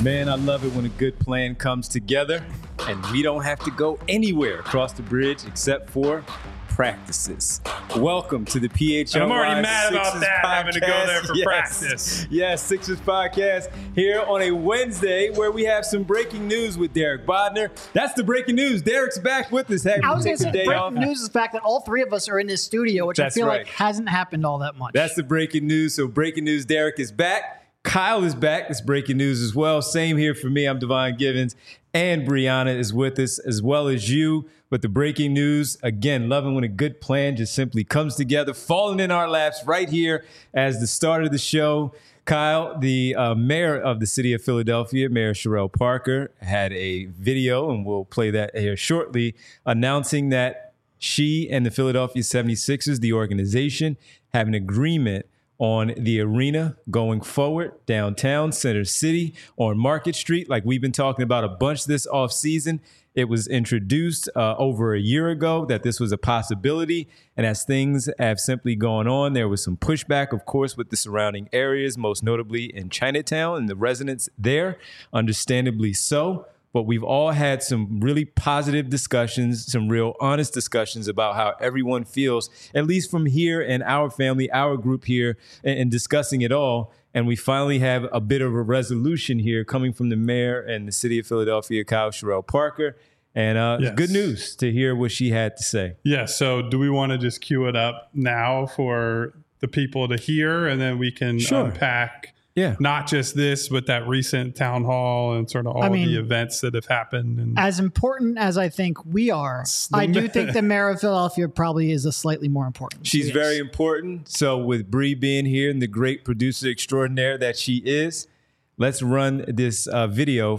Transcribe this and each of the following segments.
Man, I love it when a good plan comes together and we don't have to go anywhere across the bridge except for practices. Welcome to the PHLY I'm already mad Sixers about that, podcast. having to go there for practice. Yes, Sixers podcast here on a Wednesday where we have some breaking news with Derek Bodner. That's the breaking news. Derek's back with us. I was going to say, breaking news is the fact that all three of us are in this studio, which That's I feel right. like hasn't happened all that much. That's the breaking news. So breaking news, Derek is back. Kyle is back. It's breaking news as well. Same here for me. I'm Devon Givens. And Brianna is with us as well as you. But the breaking news, again, loving when a good plan just simply comes together, falling in our laps right here as the start of the show. Kyle, the mayor of the city of Philadelphia, Mayor Cherelle Parker, had a video, and we'll play that here shortly, announcing that she and the Philadelphia 76ers, the organization, have an agreement on the arena going forward downtown Center City on Market Street. Like we've been talking about a bunch this offseason. It was introduced over a year ago that this was a possibility. And as things have simply gone on, there was some pushback, of course, with the surrounding areas, most notably in Chinatown and the residents there, understandably so. But we've all had some really positive discussions, some real honest discussions about how everyone feels, at least from here and our family, our group here, and discussing it all. And we finally have a bit of a resolution here coming from the mayor and the city of Philadelphia, Kyle Cherelle Parker. And Yes. Good news to hear what she had to say. Yeah, so do we want to just cue it up now for the people to hear, and then we can unpack not just this, but that recent town hall and sort of all the events that have happened. And as important as I think we are, I do think the mayor of Philadelphia probably is a slightly more important. She's very important. So with Bree being here and the great producer extraordinaire that she is, let's run this video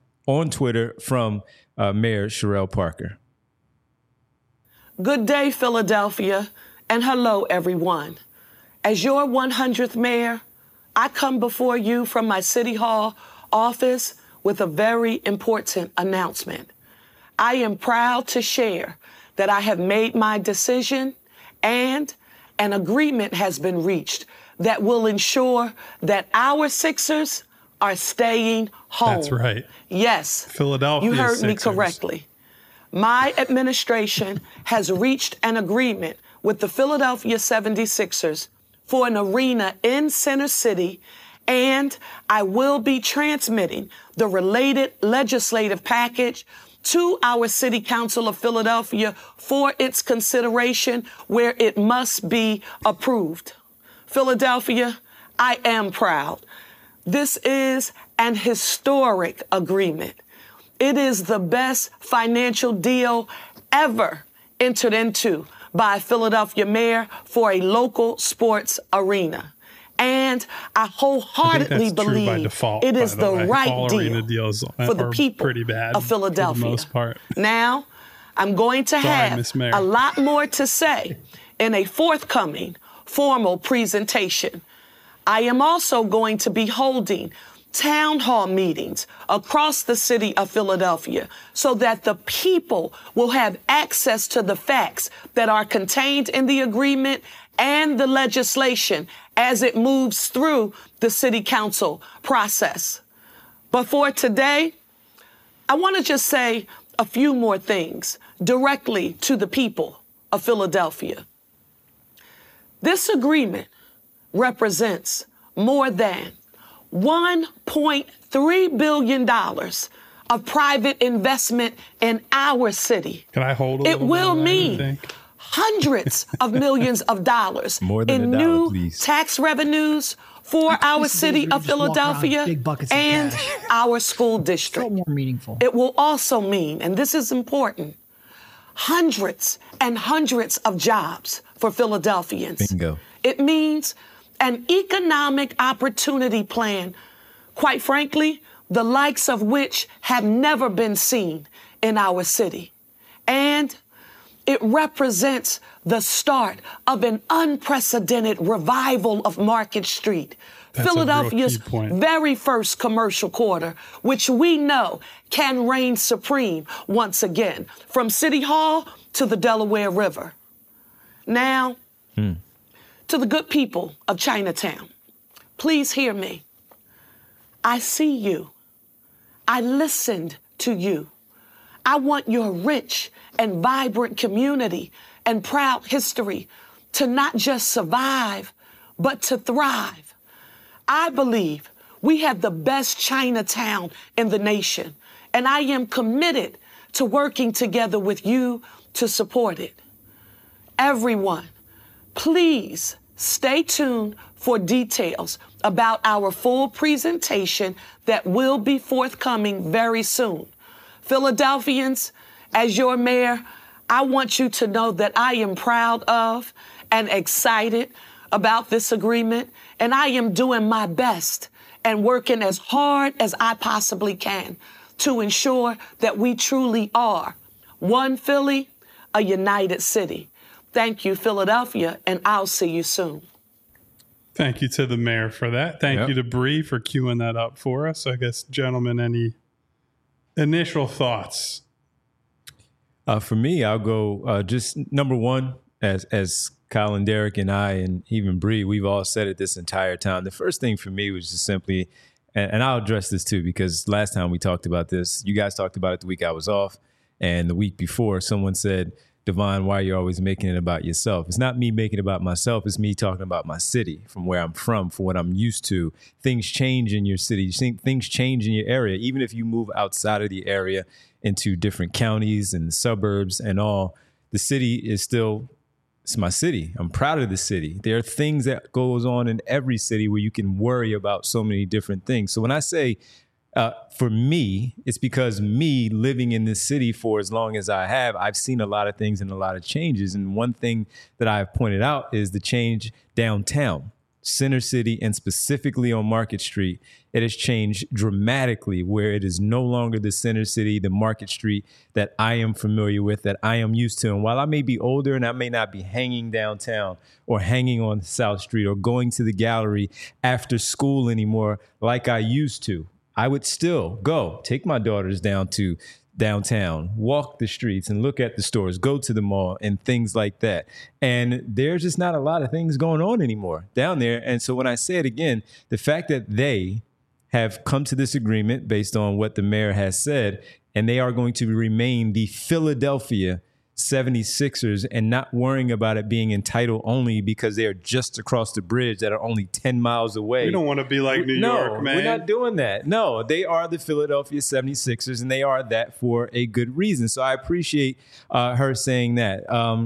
on Twitter from Mayor Cherelle Parker. Good day, Philadelphia, and hello, everyone. As your 100th mayor, I come before you from my City Hall office with a very important announcement. I am proud to share that I have made my decision and an agreement has been reached that will ensure that our Sixers are staying home. That's right. Yes. Philadelphia You heard Sixers. me correctly. My administration has reached an agreement with the Philadelphia 76ers for an arena in Center City, and I will be transmitting the related legislative package to our City Council of Philadelphia for its consideration where it must be approved. Philadelphia, I am proud. This is an historic agreement. It is the best financial deal ever entered into by a Philadelphia mayor for a local sports arena. And I wholeheartedly believe by default, it is the right all deal arena deals for the people pretty bad of Philadelphia. For the most part. Now, I'm going to have Miss Mayor. a lot more to say in a forthcoming formal presentation. I am also going to be holding town hall meetings across the city of Philadelphia so that the people will have access to the facts that are contained in the agreement and the legislation as it moves through the city council process. But for today, I want to just say a few more things directly to the people of Philadelphia. This agreement represents more than $1.3 billion of private investment in our city. Can I hold a It little will bit of that, you mean think? hundreds of millions of dollars More than in a dollar, new please. tax revenues for our These days city where you of just walk around with Philadelphia big buckets of and cash. our school Felt district. more meaningful. It will also mean, and this is important, hundreds and hundreds of jobs for Philadelphians. Bingo. It means an economic opportunity plan, quite frankly, the likes of which have never been seen in our city. And it represents the start of an unprecedented revival of Market Street, That's a real Philadelphia's key point. very first commercial quarter, which we know can reign supreme once again, from City Hall to the Delaware River. Now, to the good people of Chinatown, please hear me. I see you. I listened to you. I want your rich and vibrant community and proud history to not just survive, but to thrive. I believe we have the best Chinatown in the nation, and I am committed to working together with you to support it. Everyone, please stay tuned for details about our full presentation that will be forthcoming very soon. Philadelphians, as your mayor, I want you to know that I am proud of and excited about this agreement, and I am doing my best and working as hard as I possibly can to ensure that we truly are one Philly, a united city. Thank you, Philadelphia, and I'll see you soon. Thank you to the mayor for that. Thank you to Bree for queuing that up for us. I guess, gentlemen, any initial thoughts? For me, I'll go just number one, as Kyle and Derek and I and even Bree, we've all said it this entire time. The first thing for me was just simply, and I'll address this too, because last time we talked about this, you guys talked about it the week I was off, and the week before someone said, Devon, why are you always making it about yourself? It's not me making it about myself. It's me talking about my city, from where I'm from, for what I'm used to. Things change in your city. Things change in your area. Even if you move outside of the area into different counties and suburbs and all, the city is still, it's my city. I'm proud of the city. There are things that goes on in every city where you can worry about so many different things. So when I say, for me, it's because me living in this city for as long as I have, I've seen a lot of things and a lot of changes. And one thing that I've pointed out is the change downtown, Center City, and specifically on Market Street. It has changed dramatically, where it is no longer the Center City, the Market Street that I am familiar with, that I am used to. And while I may be older and I may not be hanging downtown or hanging on South Street or going to the gallery after school anymore like I used to, I would still go take my daughters down to downtown, walk the streets and look at the stores, go to the mall and things like that. And there's just not a lot of things going on anymore down there. And so when I say it again, the fact that they have come to this agreement based on what the mayor has said, and they are going to remain the Philadelphia 76ers and not worrying about it being entitled only because they are just across the bridge that are only 10 miles away. We don't want to be like New York, man. We're not doing that. No, they are the Philadelphia 76ers, and they are that for a good reason. So I appreciate her saying that.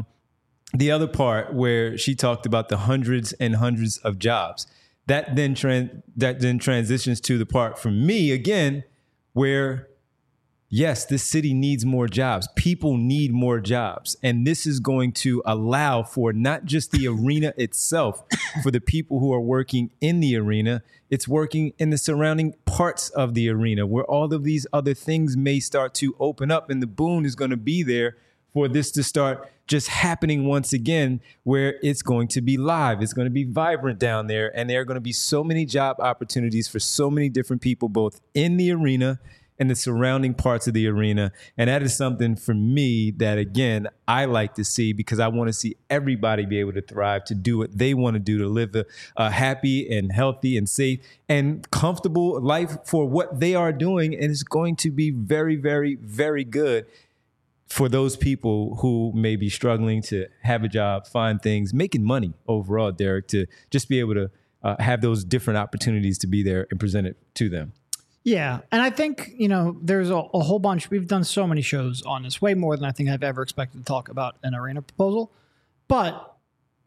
The other part where she talked about the hundreds and hundreds of jobs, that then transitions to the part for me, again, where yes, this city needs more jobs. People need more jobs. And this is going to allow for not just the arena itself, for the people who are working in the arena, it's working in the surrounding parts of the arena where all of these other things may start to open up, and the boon is going to be there for this to start just happening once again, where it's going to be live. It's going to be vibrant down there. And there are going to be so many job opportunities for so many different people, both in the arena and the surrounding parts of the arena. And that is something for me that, again, I like to see, because I want to see everybody be able to thrive, to do what they want to do, to live a happy and healthy and safe and comfortable life for what they are doing. And it's going to be very, very, very good for those people who may be struggling to have a job, find things, making money overall, Derek, to just be able to have those different opportunities to be there and present it to them. Yeah. And I think, there's a whole bunch. We've done so many shows on this, way more than I think I've ever expected to talk about an arena proposal. But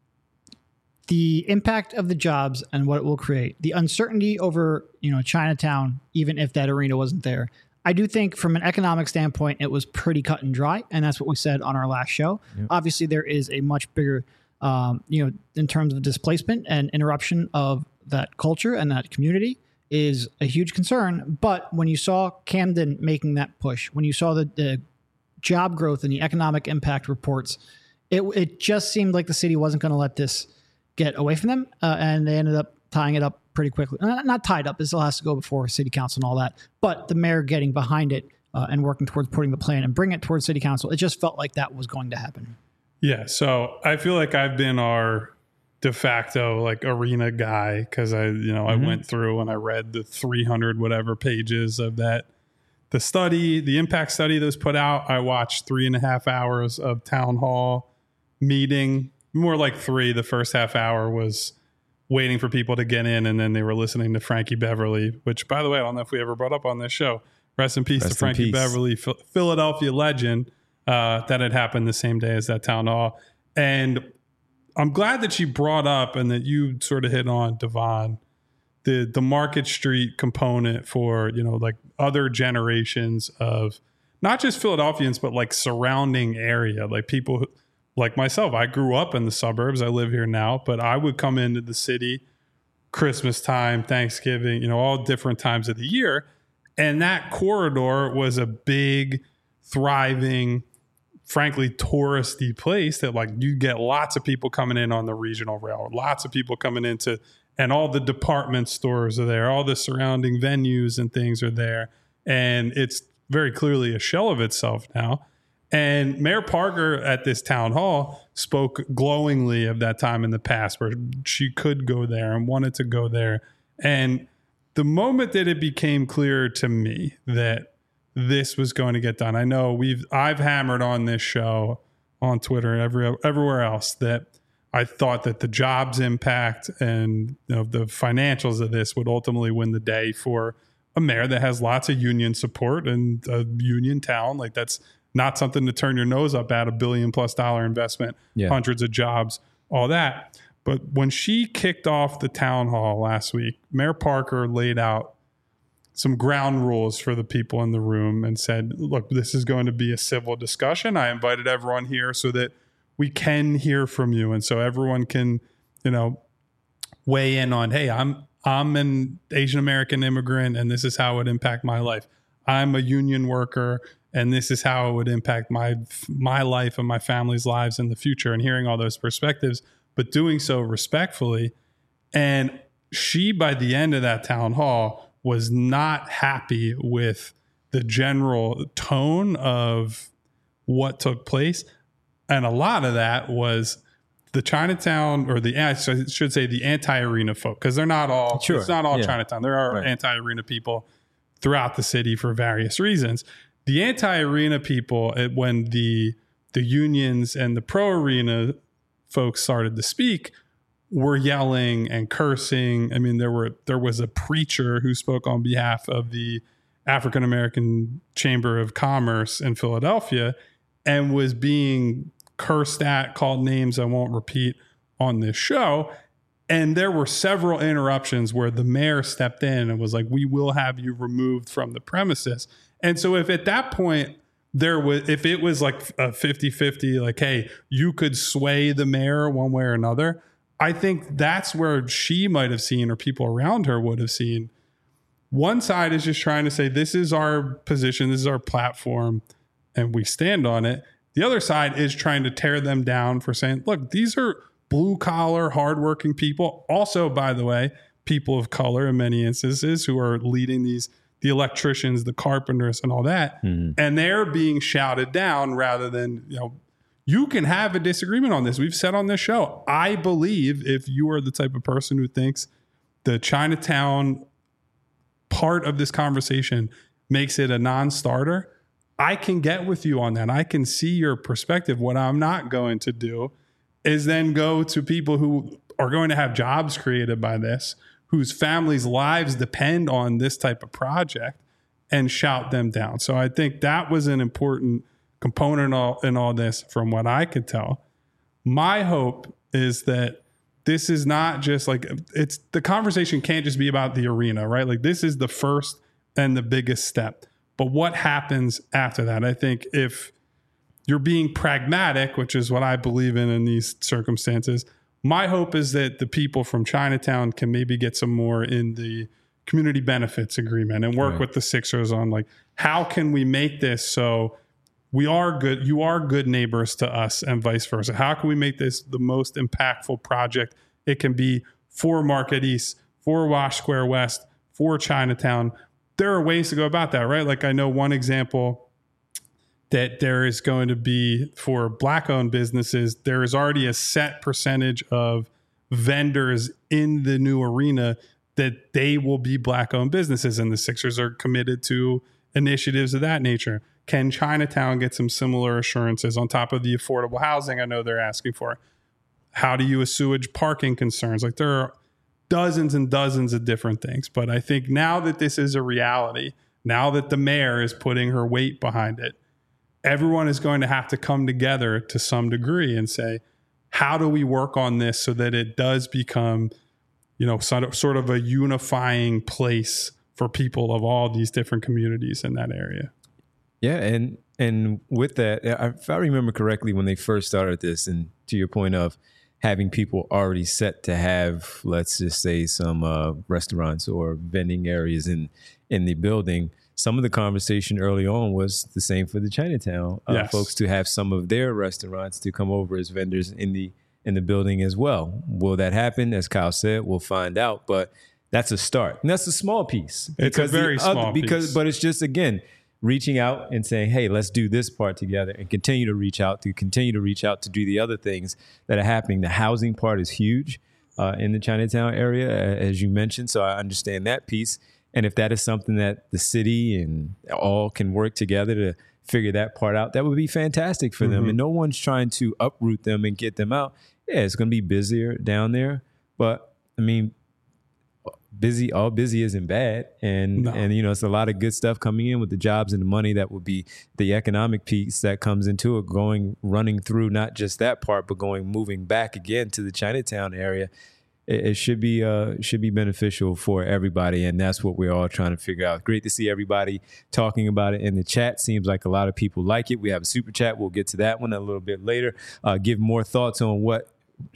the impact of the jobs and what it will create, the uncertainty over, Chinatown, even if that arena wasn't there, I do think from an economic standpoint, it was pretty cut and dry. And that's what we said on our last show. Yep. Obviously, there is a much bigger, in terms of displacement and interruption of that culture and that community is a huge concern. But when you saw Camden making that push, when you saw the job growth and the economic impact reports, it just seemed like the city wasn't going to let this get away from them. And they ended up tying it up pretty quickly. Not tied up. It still has to go before city council and all that. But the mayor getting behind it and working towards putting the plan and bring it towards city council, it just felt like that was going to happen. Yeah. So I feel like I've been our de facto arena guy, because I went through and I read the 300 whatever pages of that the study, the impact study that was put out, I watched 3.5 hours of town hall meeting, more like 3. The first half hour was waiting for people to get in, and then they were listening to Frankie Beverly, which, by the way, I don't know if we ever brought up on this show. Rest in peace to Frankie Beverly, Philadelphia legend, that had happened the same day as that town hall. And I'm glad that she brought up, and that you sort of hit on, Devon, the Market Street component for, like other generations of not just Philadelphians, but like surrounding area, like people like myself. I grew up in the suburbs. I live here now, but I would come into the city Christmas time, Thanksgiving, all different times of the year. And that corridor was a big, thriving, frankly, touristy place that like you get lots of people coming in on the regional rail, lots of people coming into, and all the department stores are there, all the surrounding venues and things are there. And it's very clearly a shell of itself now. And Mayor Parker at this town hall spoke glowingly of that time in the past where she could go there and wanted to go there. And the moment that it became clear to me that this was going to get done, I know I've hammered on this show, on Twitter, everywhere else, that I thought that the jobs impact and the financials of this would ultimately win the day for a mayor that has lots of union support and a union town. Like, that's not something to turn your nose up at. $1 billion+ investment, hundreds of jobs, all that. But when she kicked off the town hall last week, Mayor Parker laid out some ground rules for the people in the room and said, look, this is going to be a civil discussion. I invited everyone here so that we can hear from you. And so everyone can, weigh in on, hey, I'm an Asian American immigrant, and this is how it would impact my life. I'm a union worker, and this is how it would impact my life and my family's lives in the future, and hearing all those perspectives, but doing so respectfully. And she, by the end of that town hall, was not happy with the general tone of what took place. And a lot of that was the Chinatown, or I should say the anti-arena folk, because they're not all, it's not all Chinatown. There are anti-arena people throughout the city for various reasons. The anti-arena people, when the unions and the pro-arena folks started to speak, were yelling and cursing. I mean, there was a preacher who spoke on behalf of the African American Chamber of Commerce in Philadelphia and was being cursed at, called names I won't repeat on this show. And there were several interruptions where the mayor stepped in and was like, we will have you removed from the premises. And so if at that point if it was like a 50-50, like, hey, you could sway the mayor one way or another, I think that's where she might have seen, or people around her would have seen, one side is just trying to say, this is our position, this is our platform, and we stand on it. The other side is trying to tear them down for saying, look, these are blue collar, hardworking people. Also, by the way, people of color in many instances who are leading the electricians, the carpenters, and all that. Mm-hmm. And they're being shouted down rather than, you can have a disagreement on this. We've said on this show, I believe if you are the type of person who thinks the Chinatown part of this conversation makes it a non-starter, I can get with you on that. I can see your perspective. What I'm not going to do is then go to people who are going to have jobs created by this, whose families' lives depend on this type of project, and shout them down. So I think that was an important component in all this from what I could tell. My hope is that this is not just like, the conversation can't just be about the arena, right? Like, this is the first and the biggest step. But what happens after that? I think if you're being pragmatic, which is what I believe in these circumstances, my hope is that the people from Chinatown can maybe get some more in the community benefits agreement and work with the Sixers on, like, how can we make this so you are good neighbors to us and vice versa? How can we make this the most impactful project it can be for Market East, for Wash Square West, for Chinatown? There are ways to go about that, right? Like, I know one example that there is going to be for Black-owned businesses, there is already a set percentage of vendors in the new arena that they will be Black-owned businesses, and the Sixers are committed to initiatives of that nature. Can Chinatown get some similar assurances on top of the affordable housing I know they're asking for? How do you assuage parking concerns? Like, there are dozens and dozens of different things. But I think now that this is a reality, now that the mayor is putting her weight behind it, everyone is going to have to come together to some degree and say, how do we work on this so that it does become, sort of a unifying place for people of all these different communities in that area? Yeah, and with that, if I remember correctly, when they first started this, and to your point of having people already set to have, let's just say, some restaurants or vending areas in the building, some of the conversation early on was the same for the Chinatown folks to have some of their restaurants to come over as vendors in the building as well. Will that happen? As Kyle said, we'll find out, but that's a start, and that's a small piece. It's a very small piece. But it's just, again, reaching out and saying, hey, let's do this part together, and continue to reach out to do the other things that are happening. The housing part is huge in the Chinatown area, as you mentioned. So I understand that piece. And if that is something that the city and all can work together to figure that part out, that would be fantastic for them. And no one's trying to uproot them and get them out. Yeah, it's going to be busier down there. But, I mean, all busy isn't bad. And it's a lot of good stuff coming in with the jobs and the money. That would be the economic piece that comes into it, running through not just that part, but moving back again to the Chinatown area. It should be beneficial for everybody, and that's what we're all trying to figure out. Great to see everybody talking about it in the chat. Seems like a lot of people like it. We have a super chat. We'll get to that one a little bit later. Give more thoughts on what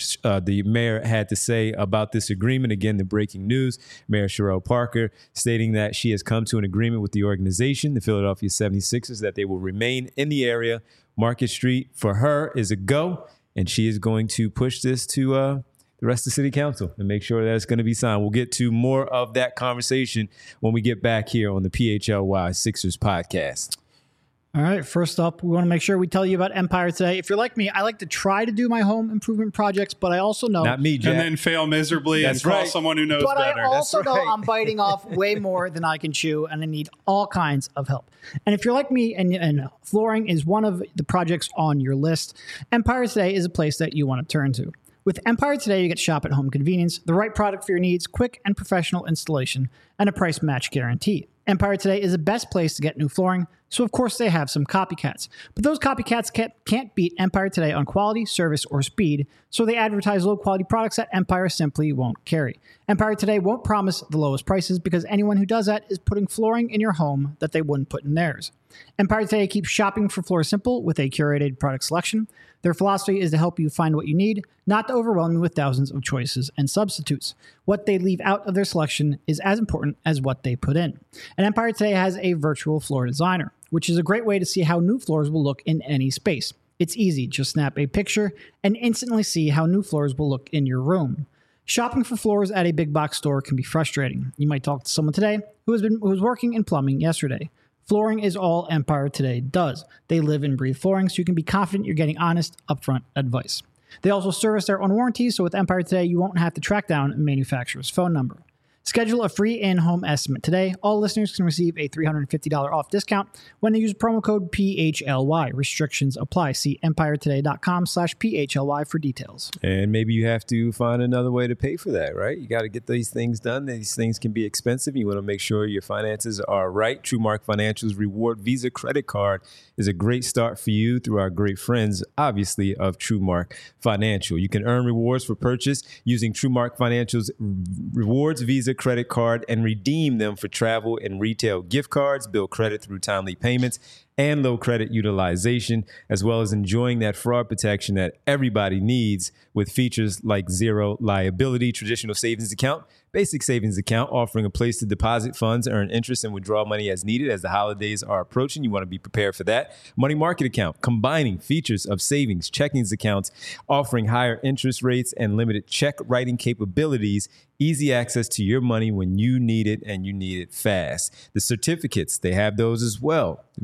the mayor had to say about this agreement. Again, the breaking news, Mayor Cherelle Parker stating that she has come to an agreement with the organization, the Philadelphia 76ers, that they will remain in the area. Market Street for her is a go, and she is going to push this to the rest of the city council and make sure that it's going to be signed. We'll get to more of that conversation when we get back here on the PHLY Sixers podcast. All right, first up, we want to make sure we tell you about Empire Today. If you're like me, I like to try to do my home improvement projects, but I also know... Not me, Jack. And then fail miserably and call someone who knows better. But I also know I'm biting off way more than I can chew, and I need all kinds of help. And if you're like me and flooring is one of the projects on your list, Empire Today is a place that you want to turn to. With Empire Today, you get shop at home convenience, the right product for your needs, quick and professional installation, and a price match guarantee. Empire Today is the best place to get new flooring, so of course they have some copycats. But those copycats can't beat Empire Today on quality, service, or speed, so they advertise low-quality products that Empire simply won't carry. Empire Today won't promise the lowest prices because anyone who does that is putting flooring in your home that they wouldn't put in theirs. Empire Today keeps shopping for floor simple with a curated product selection. Their philosophy is to help you find what you need, not to overwhelm you with thousands of choices and substitutes. What they leave out of their selection is as important as what they put in. And Empire Today has a virtual floor designer, which is a great way to see how new floors will look in any space. It's easy. Just snap a picture and instantly see how new floors will look in your room. Shopping for floors at a big box store can be frustrating. You might talk to someone today who was working in plumbing yesterday. Flooring is all Empire Today does. They live and breathe flooring, so you can be confident you're getting honest, upfront advice. They also service their own warranties, so with Empire Today, you won't have to track down a manufacturer's phone number. Schedule a free in-home estimate today. All listeners can receive a $350 off discount when they use promo code PHLY. Restrictions apply. See EmpireToday.com/PHLY for details. And maybe you have to find another way to pay for that, right? You got to get these things done. These things can be expensive. You want to make sure your finances are right. TrueMark Financial's Reward Visa credit card is a great start for you through our great friends, obviously, of TrueMark Financial. You can earn rewards for purchase using TrueMark Financial's Rewards Visa credit card and redeem them for travel and retail gift cards, build credit through timely payments and low credit utilization, as well as enjoying that fraud protection that everybody needs with features like zero liability, traditional savings account, basic savings account, offering a place to deposit funds, earn interest, and withdraw money as needed as the holidays are approaching. You want to be prepared for that. Money market account, combining features of savings, checkings accounts, offering higher interest rates and limited check writing capabilities, easy access to your money when you need it and you need it fast. The certificates, they have those as well. Very well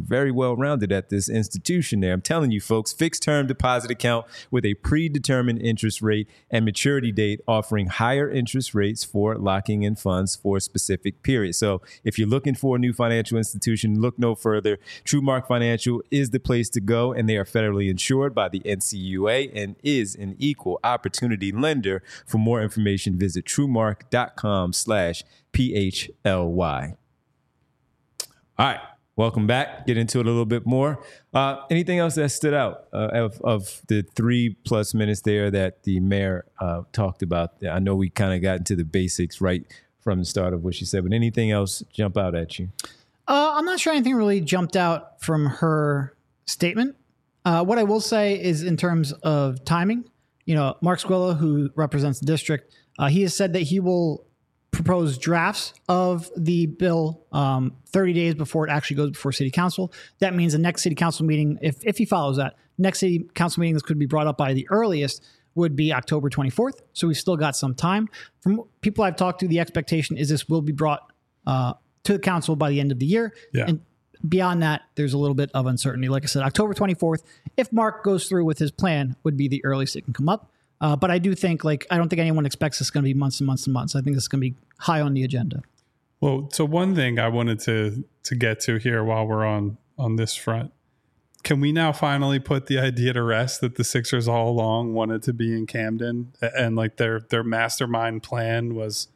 well-rounded at this institution there. I'm telling you, folks, fixed-term deposit account with a predetermined interest rate and maturity date, offering higher interest rates for locking in funds for a specific period. So if you're looking for a new financial institution, look no further. TrueMark Financial is the place to go, and they are federally insured by the NCUA and is an equal opportunity lender. For more information, visit truemark.com/PHLY. All right, welcome back. Get into it a little bit more. Anything else that stood out of the 3+ minutes there that the mayor talked about? I know we kind of got into the basics right from the start of what she said, but anything else jump out at you? I'm not sure anything really jumped out from her statement. What I will say is in terms of timing, Mark Squilla, who represents the district, he has said that he will propose drafts of the bill 30 days before it actually goes before city council. That means the next city council meeting, if he follows that, next city council meeting, this could be brought up by the earliest, would be October 24th. So we've still got some time. From people I've talked to, the expectation is this will be brought to the council by the end of the year. Yeah. And beyond that, there's a little bit of uncertainty. Like I said, October 24th, if Mark goes through with his plan, would be the earliest it can come up. But I do think, I don't think anyone expects this is going to be months and months and months. I think this is going to be high on the agenda. Well, so one thing I wanted to get to here while we're on this front, can we now finally put the idea to rest that the Sixers all along wanted to be in Camden, and their mastermind plan was,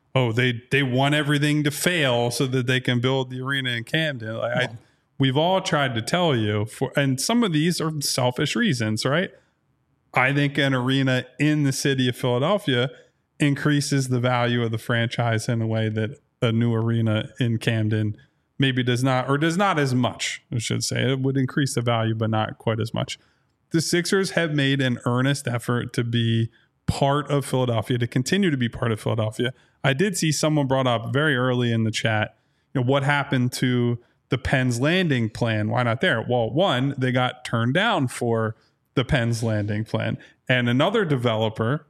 they want everything to fail so that they can build the arena in Camden. We've all tried to tell you, and some of these are selfish reasons, right? I think an arena in the city of Philadelphia increases the value of the franchise in a way that a new arena in Camden maybe does not, or does not as much, I should say. It would increase the value, but not quite as much. The Sixers have made an earnest effort to be part of Philadelphia, to continue to be part of Philadelphia. I did see someone brought up very early in the chat, what happened to the Penn's Landing plan? Why not there? Well, one, they got turned down for the Penn's Landing plan, and another developer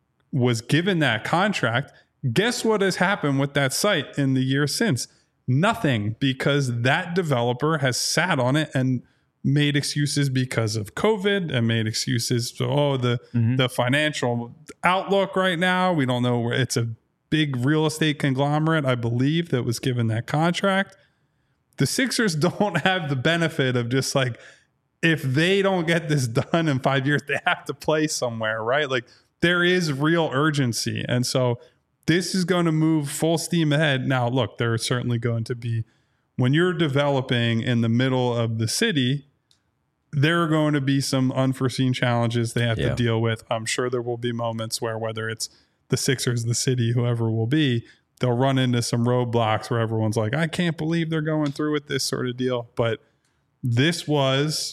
was given that contract. Guess what has happened with that site in the years since? Nothing, because that developer has sat on it and made excuses because of COVID and made excuses. So, the financial outlook right now, we don't know where. It's a big real estate conglomerate, I believe, that was given that contract. The Sixers don't have the benefit of just if they don't get this done in 5 years, they have to play somewhere, right? There is real urgency. And so this is going to move full steam ahead. Now, look, there are certainly going to be, when you're developing in the middle of the city, there are going to be some unforeseen challenges they have to deal with. I'm sure there will be moments where, whether it's the Sixers, the city, whoever will be, they'll run into some roadblocks where everyone's like, I can't believe they're going through with this sort of deal. But this was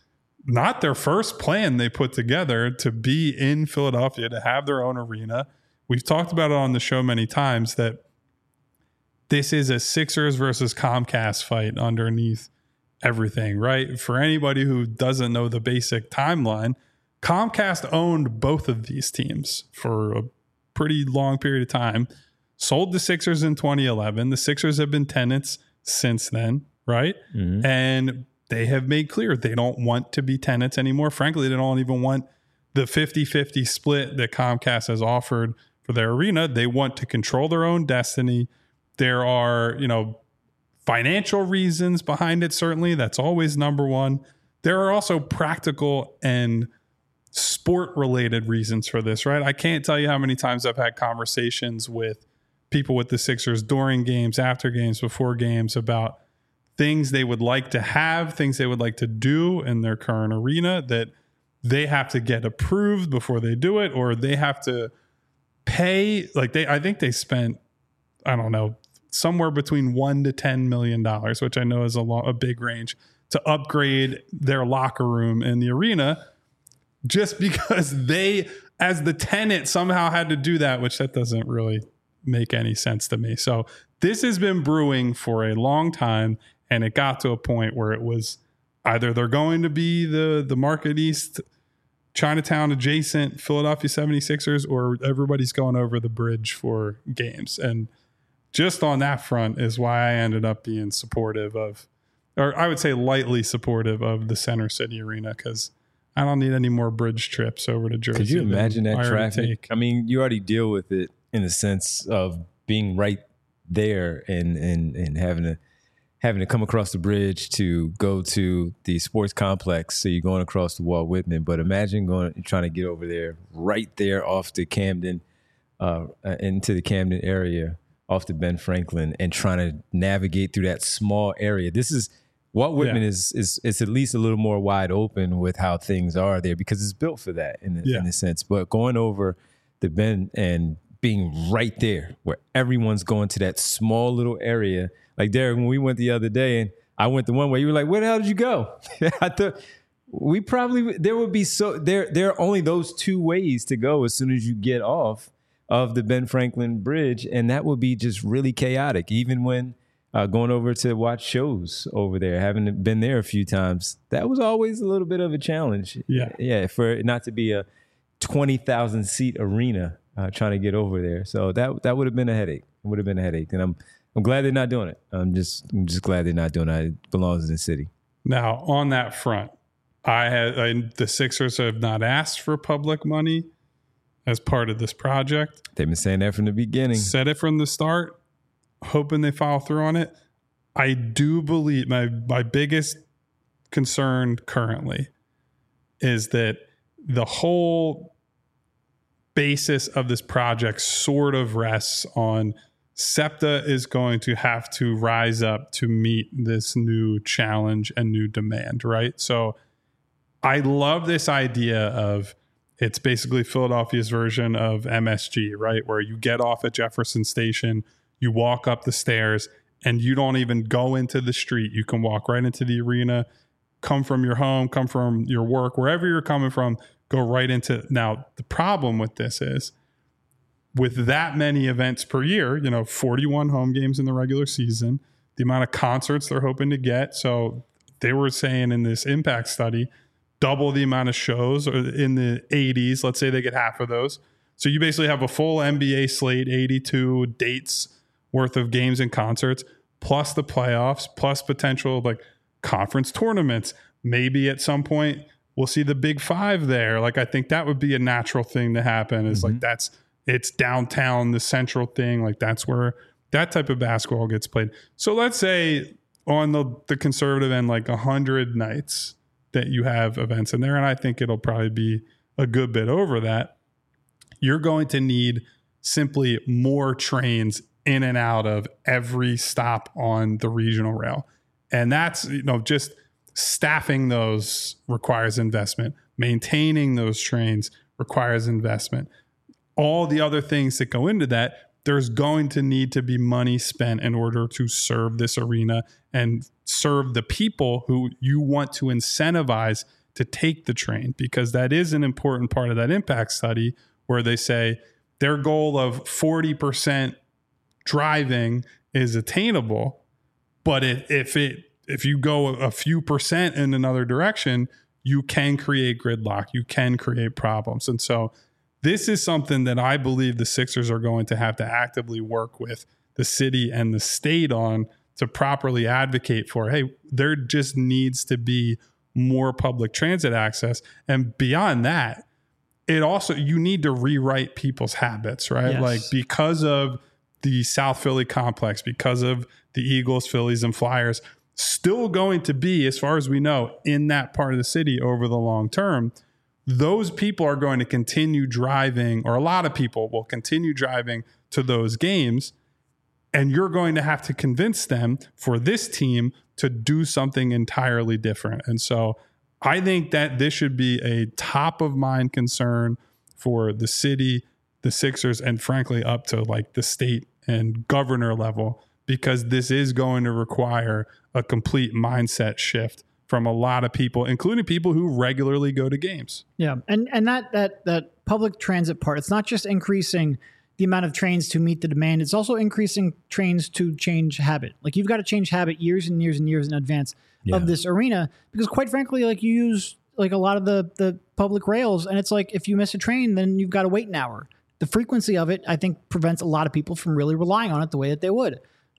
not their first plan they put together to be in Philadelphia, to have their own arena. We've talked about it on the show many times that this is a Sixers versus Comcast fight underneath everything, right? For anybody who doesn't know the basic timeline, Comcast owned both of these teams for a pretty long period of time, sold the Sixers in 2011. The Sixers have been tenants since then, right? Mm-hmm. And they have made clear they don't want to be tenants anymore. Frankly, they don't even want the 50-50 split that Comcast has offered for their arena. They want to control their own destiny. There are, financial reasons behind it, certainly. That's always number one. There are also practical and sport-related reasons for this, right? I can't tell you how many times I've had conversations with people with the Sixers during games, after games, before games about things they would like to have, things they would like to do in their current arena that they have to get approved before they do it, or they have to pay. I think they spent, I don't know, somewhere between $1 to $10 million, which I know is a big range, to upgrade their locker room in the arena, just because they, as the tenant, somehow had to do that, which that doesn't really make any sense to me. So this has been brewing for a long time. And it got to a point where it was either they're going to be the Market East, Chinatown adjacent Philadelphia 76ers, or everybody's going over the bridge for games. And just on that front is why I ended up being supportive of or I would say lightly supportive of the Center City Arena, because I don't need any more bridge trips over to Jersey. Could you imagine that traffic? I mean, you already deal with it in the sense of being right there and having to come across the bridge to go to the sports complex. So you're going across the Walt Whitman, but imagine trying to get over there, right there off the Camden, into the Camden area, off the Ben Franklin, and trying to navigate through that small area. Walt Whitman is at least a little more wide open with how things are there, because it's built for that in a sense. But going over the Ben and being right there where everyone's going to that small little area. Like, Derek, when we went the other day and I went the one way, you were like, where the hell did you go? I thought there are only those two ways to go as soon as you get off of the Ben Franklin Bridge. And that would be just really chaotic. Even when going over to watch shows over there, having been there a few times, that was always a little bit of a challenge. Yeah. For it not to be a 20,000 seat arena, trying to get over there. So that would have been a headache. It would have been a headache. And I'm glad they're not doing it. I'm just glad they're not doing it. It belongs in the city. Now, on that front, the Sixers have not asked for public money as part of this project. They've been saying that from the beginning. Said it from the start, hoping they follow through on it. I do believe my biggest concern currently is that the whole basis of this project sort of rests on SEPTA is going to have to rise up to meet this new challenge and new demand, right? So I love this idea of, it's basically Philadelphia's version of MSG, right? Where you get off at Jefferson Station, you walk up the stairs, and you don't even go into the street. You can walk right into the arena, come from your home, come from your work, wherever you're coming from, go right into. Now, the problem with this is, with that many events per year, 41 home games in the regular season, the amount of concerts they're hoping to get. So they were saying in this impact study, double the amount of shows, or in the 80s, let's say they get half of those. So you basically have a full NBA slate, 82 dates worth of games and concerts, plus the playoffs, plus potential like conference tournaments. Maybe at some point we'll see the Big Five there. Like, I think that would be a natural thing to happen, is like it's downtown, the central thing. Like, that's where that type of basketball gets played. So let's say on the conservative end, like 100 nights that you have events in there, and I think it'll probably be a good bit over that. You're going to need simply more trains in and out of every stop on the regional rail. And that's, just staffing those requires investment. Maintaining those trains requires investment. All the other things that go into that, there's going to need to be money spent in order to serve this arena and serve the people who you want to incentivize to take the train, because that is an important part of that impact study, where they say their goal of 40% driving is attainable, but if you go a few percent in another direction, you can create gridlock, you can create problems. And so this is something that I believe the Sixers are going to have to actively work with the city and the state on to properly advocate for. Hey, there just needs to be more public transit access. And beyond that, you need to rewrite people's habits, right? Yes. Like, because of the South Philly complex, because of the Eagles, Phillies, and Flyers still going to be, as far as we know, in that part of the city over the long term, those people are going to continue driving, or a lot of people will continue driving to those games. And you're going to have to convince them, for this team, to do something entirely different. And so I think that this should be a top of mind concern for the city, the Sixers, and frankly, up to like the state and governor level, because this is going to require a complete mindset shift from a lot of people, including people who regularly go to games. Yeah. And that public transit part, it's not just increasing the amount of trains to meet the demand, it's also increasing trains to change habit. Like, you've got to change habit years and years and years in advance of this arena, because quite frankly, like, you use like a lot of the public rails, and it's like, if you miss a train, then you've got to wait an hour. The frequency of it, I think, prevents a lot of people from really relying on it the way that they would.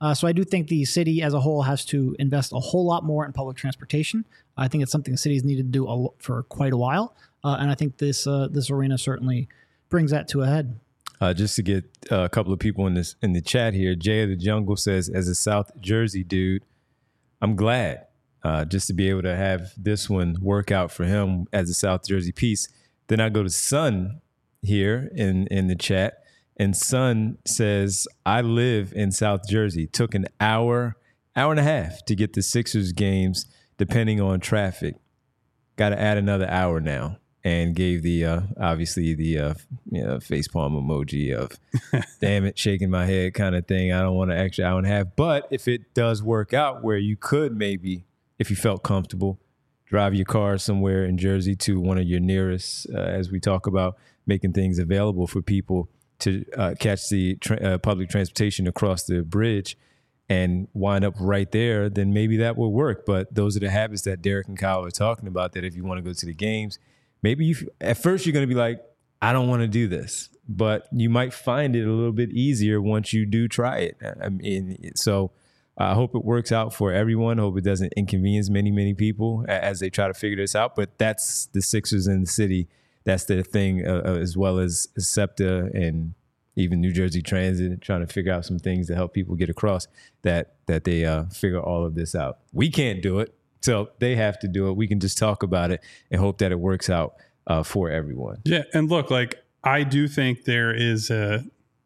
So I do think the city as a whole has to invest a whole lot more in public transportation. I think it's something the city's needed to do for quite a while. And I think this arena certainly brings that to a head. Just to get a couple of people in the chat here, Jay of the Jungle says, as a South Jersey dude, I'm glad just to be able to have this one work out for him as a South Jersey piece. Then I go to Sun here in the chat. And Son says, I live in South Jersey. Took an hour and a half to get the Sixers games, depending on traffic. Got to add another hour now. And gave the, obviously, the facepalm emoji of, damn it, shaking my head kind of thing. I don't want an extra hour and a half. But if it does work out where you could maybe, if you felt comfortable, drive your car somewhere in Jersey to one of your nearest, as we talk about making things available for people to catch the public transportation across the bridge and wind up right there, then maybe that will work. But those are the habits that Derek and Kyle are talking about, that if you want to go to the games, maybe at first you're going to be like, I don't want to do this. But you might find it a little bit easier once you do try it. I mean, so I hope it works out for everyone. I hope it doesn't inconvenience many people as they try to figure this out. But that's the Sixers in the city. That's their thing, as well as SEPTA and even New Jersey Transit, trying to figure out some things to help people get across, that they figure all of this out. We can't do it, so they have to do it. We can just talk about it and hope that it works out for everyone. Yeah, and look, like, I do think there's a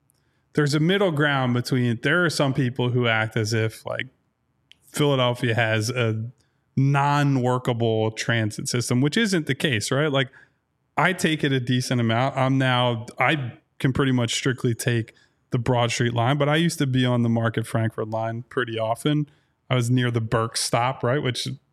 middle ground between, there are some people who act as if like Philadelphia has a non-workable transit system, which isn't the case, right? Like, I take it a decent amount. I can pretty much strictly take the Broad Street line, but I used to be on the Market Frankford line pretty often. I was near the Burke stop, right? Which is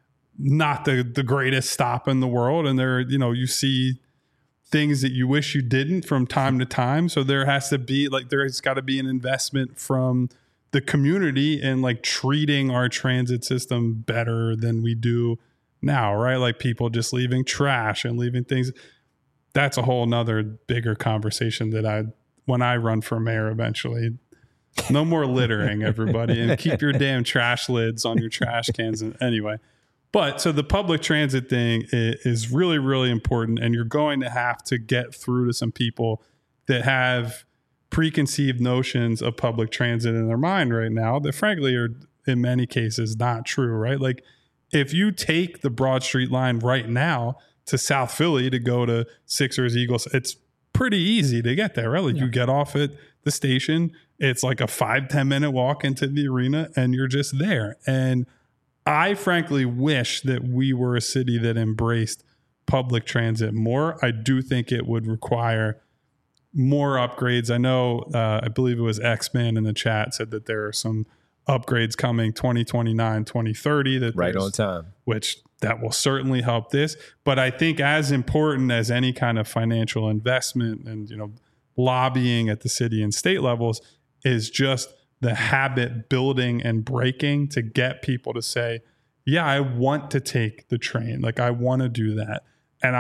not the greatest stop in the world. And there, you see things that you wish you didn't from time to time. So there has to be there's got to be an investment from the community in like treating our transit system better than we do now, right? Like people just leaving trash and leaving things. That's a whole nother bigger conversation that when I run for mayor eventually, no more littering, everybody, and keep your damn trash lids on your trash cans. Anyway, but so the public transit thing is really, really important. And you're going to have to get through to some people that have preconceived notions of public transit in their mind right now that frankly are in many cases not true, right? Like, if you take the Broad Street line right now to South Philly to go to Sixers, Eagles, it's pretty easy to get there, right? Like, you get off at the station, it's like a 5-10 minute walk into the arena and you're just there. And I frankly wish that we were a city that embraced public transit more. I do think it would require more upgrades. I know, I believe it was X-Man in the chat said that there are some upgrades coming 2029, 2030. That right on time. Which that will certainly help this. But I think as important as any kind of financial investment and, lobbying at the city and state levels is just the habit building and breaking to get people to say, yeah, I want to take the train. Like, I want to do that. And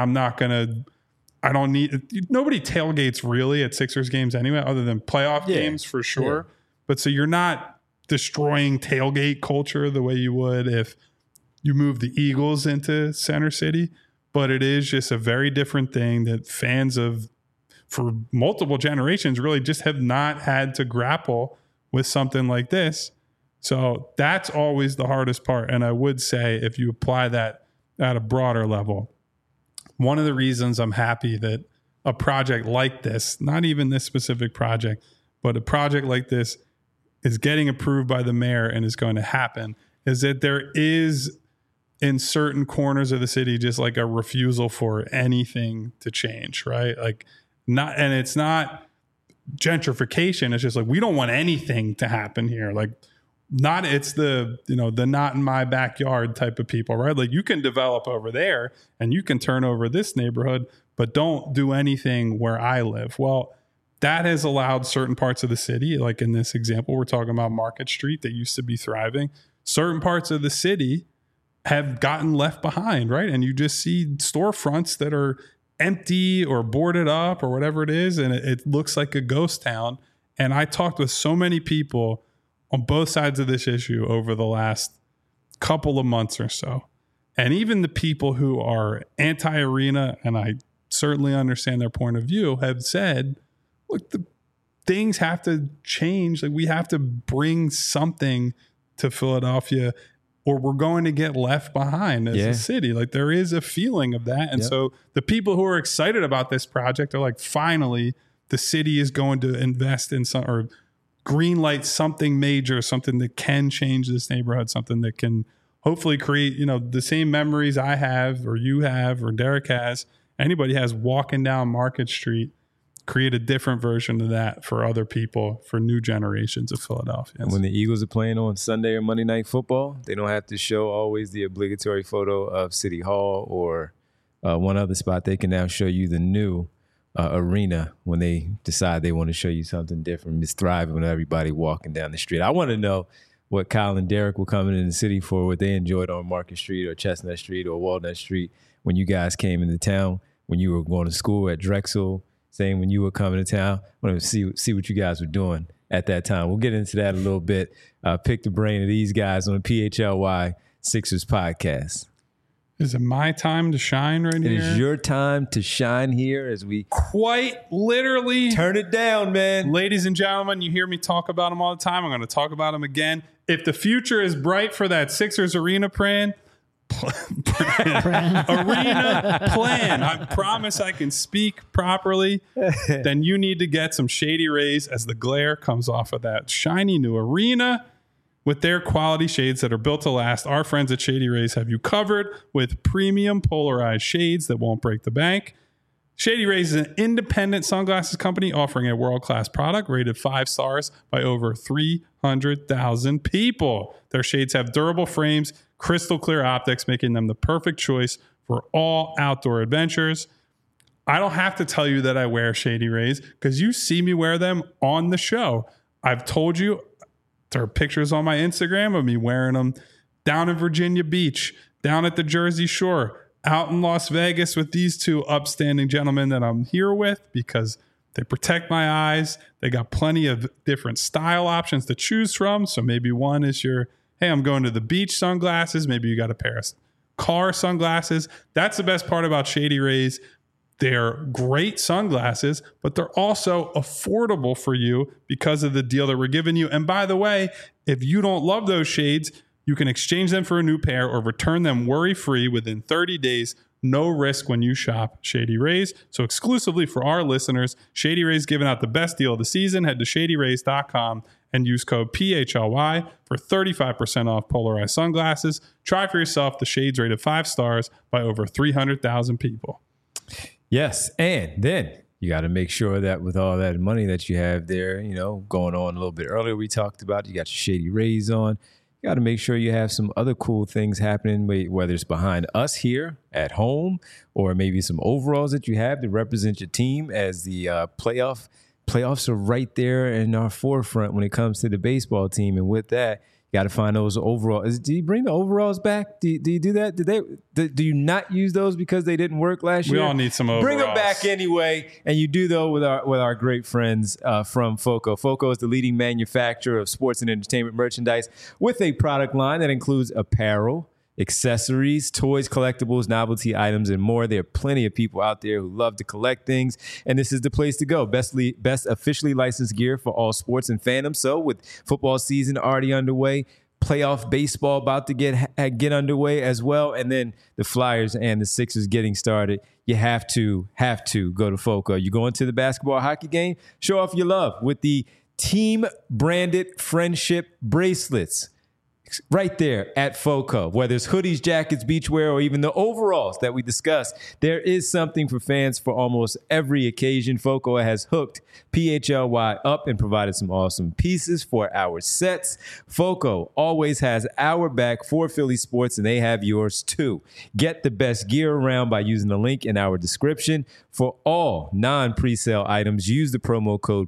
nobody tailgates really at Sixers games anyway, other than playoff games for sure. Yeah. But so you're not destroying tailgate culture the way you would if you move the Eagles into Center City. But it is just a very different thing that fans for multiple generations really just have not had to grapple with something like this. So that's always the hardest part. And I would say if you apply that at a broader level, one of the reasons I'm happy that a project like this, not even this specific project, but a project like this is getting approved by the mayor and is going to happen, is that there is in certain corners of the city just like a refusal for anything to change, right? Like, and it's not gentrification. It's just like, we don't want anything to happen here. Like, it's the not in my backyard type of people, right? Like, you can develop over there and you can turn over this neighborhood, but don't do anything where I live. Well, that has allowed certain parts of the city, like in this example, we're talking about Market Street that used to be thriving. Certain parts of the city have gotten left behind, right? And you just see storefronts that are empty or boarded up or whatever it is, and it looks like a ghost town. And I talked with so many people on both sides of this issue over the last couple of months or so. And even the people who are anti-arena, and I certainly understand their point of view, have said, look, the things have to change. Like, we have to bring something to Philadelphia or we're going to get left behind as a city. Like, there is a feeling of that. And so the people who are excited about this project are like, finally, the city is going to invest in some, or green light something major, something that can change this neighborhood, something that can hopefully create, you know, the same memories I have or you have or Derek has, anybody has walking down Market Street, create a different version of that for other people, for new generations of Philadelphia. And when the Eagles are playing on Sunday or Monday Night Football, they don't have to show always the obligatory photo of City Hall or one other spot. They can now show you the new arena when they decide they want to show you something different. It's thriving with everybody walking down the street. I want to know what Kyle and Derek were coming in the city for, what they enjoyed on Market Street or Chestnut Street or Walnut Street when you guys came into town, when you were going to school at Drexel, saying when you were coming to town. I want to see what you guys were doing at that time. We'll get into that a little bit. Pick the brain of these guys on the PHLY Sixers podcast. Is it my time to shine right here? It is your time to shine here as we quite literally turn it down, man. Ladies and gentlemen, you hear me talk about them all the time. I'm going to talk about them again. If the future is bright for that Sixers arena plan, I promise I can speak properly. Then you need to get some Shady Rays as the glare comes off of that shiny new arena. With their quality shades that are built to last, our friends at Shady Rays have you covered with premium polarized shades that won't break the bank. Shady Rays is an independent sunglasses company offering a world-class product rated 5 stars by over 300,000 people. Their shades have durable frames, crystal clear optics, making them the perfect choice for all outdoor adventures. I don't have to tell you that I wear Shady Rays because you see me wear them on the show. I've told you, there are pictures on my Instagram of me wearing them down in Virginia Beach, down at the Jersey Shore, out in Las Vegas with these two upstanding gentlemen that I'm here with because they protect my eyes. They got plenty of different style options to choose from. So maybe one is your, hey, I'm going to the beach sunglasses. Maybe you got a pair of car sunglasses. That's the best part about Shady Rays. They're great sunglasses, but they're also affordable for you because of the deal that we're giving you. And by the way, if you don't love those shades, you can exchange them for a new pair or return them worry-free within 30 days. No risk when you shop Shady Rays. So exclusively for our listeners, Shady Rays giving out the best deal of the season. Head to shadyrays.com and use code PHLY for 35% off polarized sunglasses. Try for yourself the shades rated 5 stars by over 300,000 people. Yes, and then you got to make sure that with all that money that you have there, you know, going on a little bit earlier, we talked about, you got your Shady Rays on. You got to make sure you have some other cool things happening, whether it's behind us here at home or maybe some overalls that you have to represent your team as the playoffs are right there in our forefront when it comes to the baseball team. And with that, you got to find those overalls. Do you bring the overalls back? Do you do that? Do you not use those because they didn't work last year? We all need some overalls. Bring them back anyway, and you do though with our great friends from FOCO. FOCO is the leading manufacturer of sports and entertainment merchandise with a product line that includes apparel, accessories, toys, collectibles, novelty items, and more. There are plenty of people out there who love to collect things, and this is the place to go. Best officially licensed gear for all sports and fandoms. So with football season already underway, playoff baseball about to get underway as well, and then the Flyers and the Sixers getting started, you have to go to FOCO. You go into the basketball hockey game, show off your love with the team-branded friendship bracelets. Right there at FOCO, whether it's hoodies, jackets, beachwear, or even the overalls that we discussed, there is something for fans for almost every occasion. FOCO has hooked PHLY up and provided some awesome pieces for our sets. FOCO always has our back for Philly sports, and they have yours too. Get the best gear around by using the link in our description. For all non-presale items, use the promo code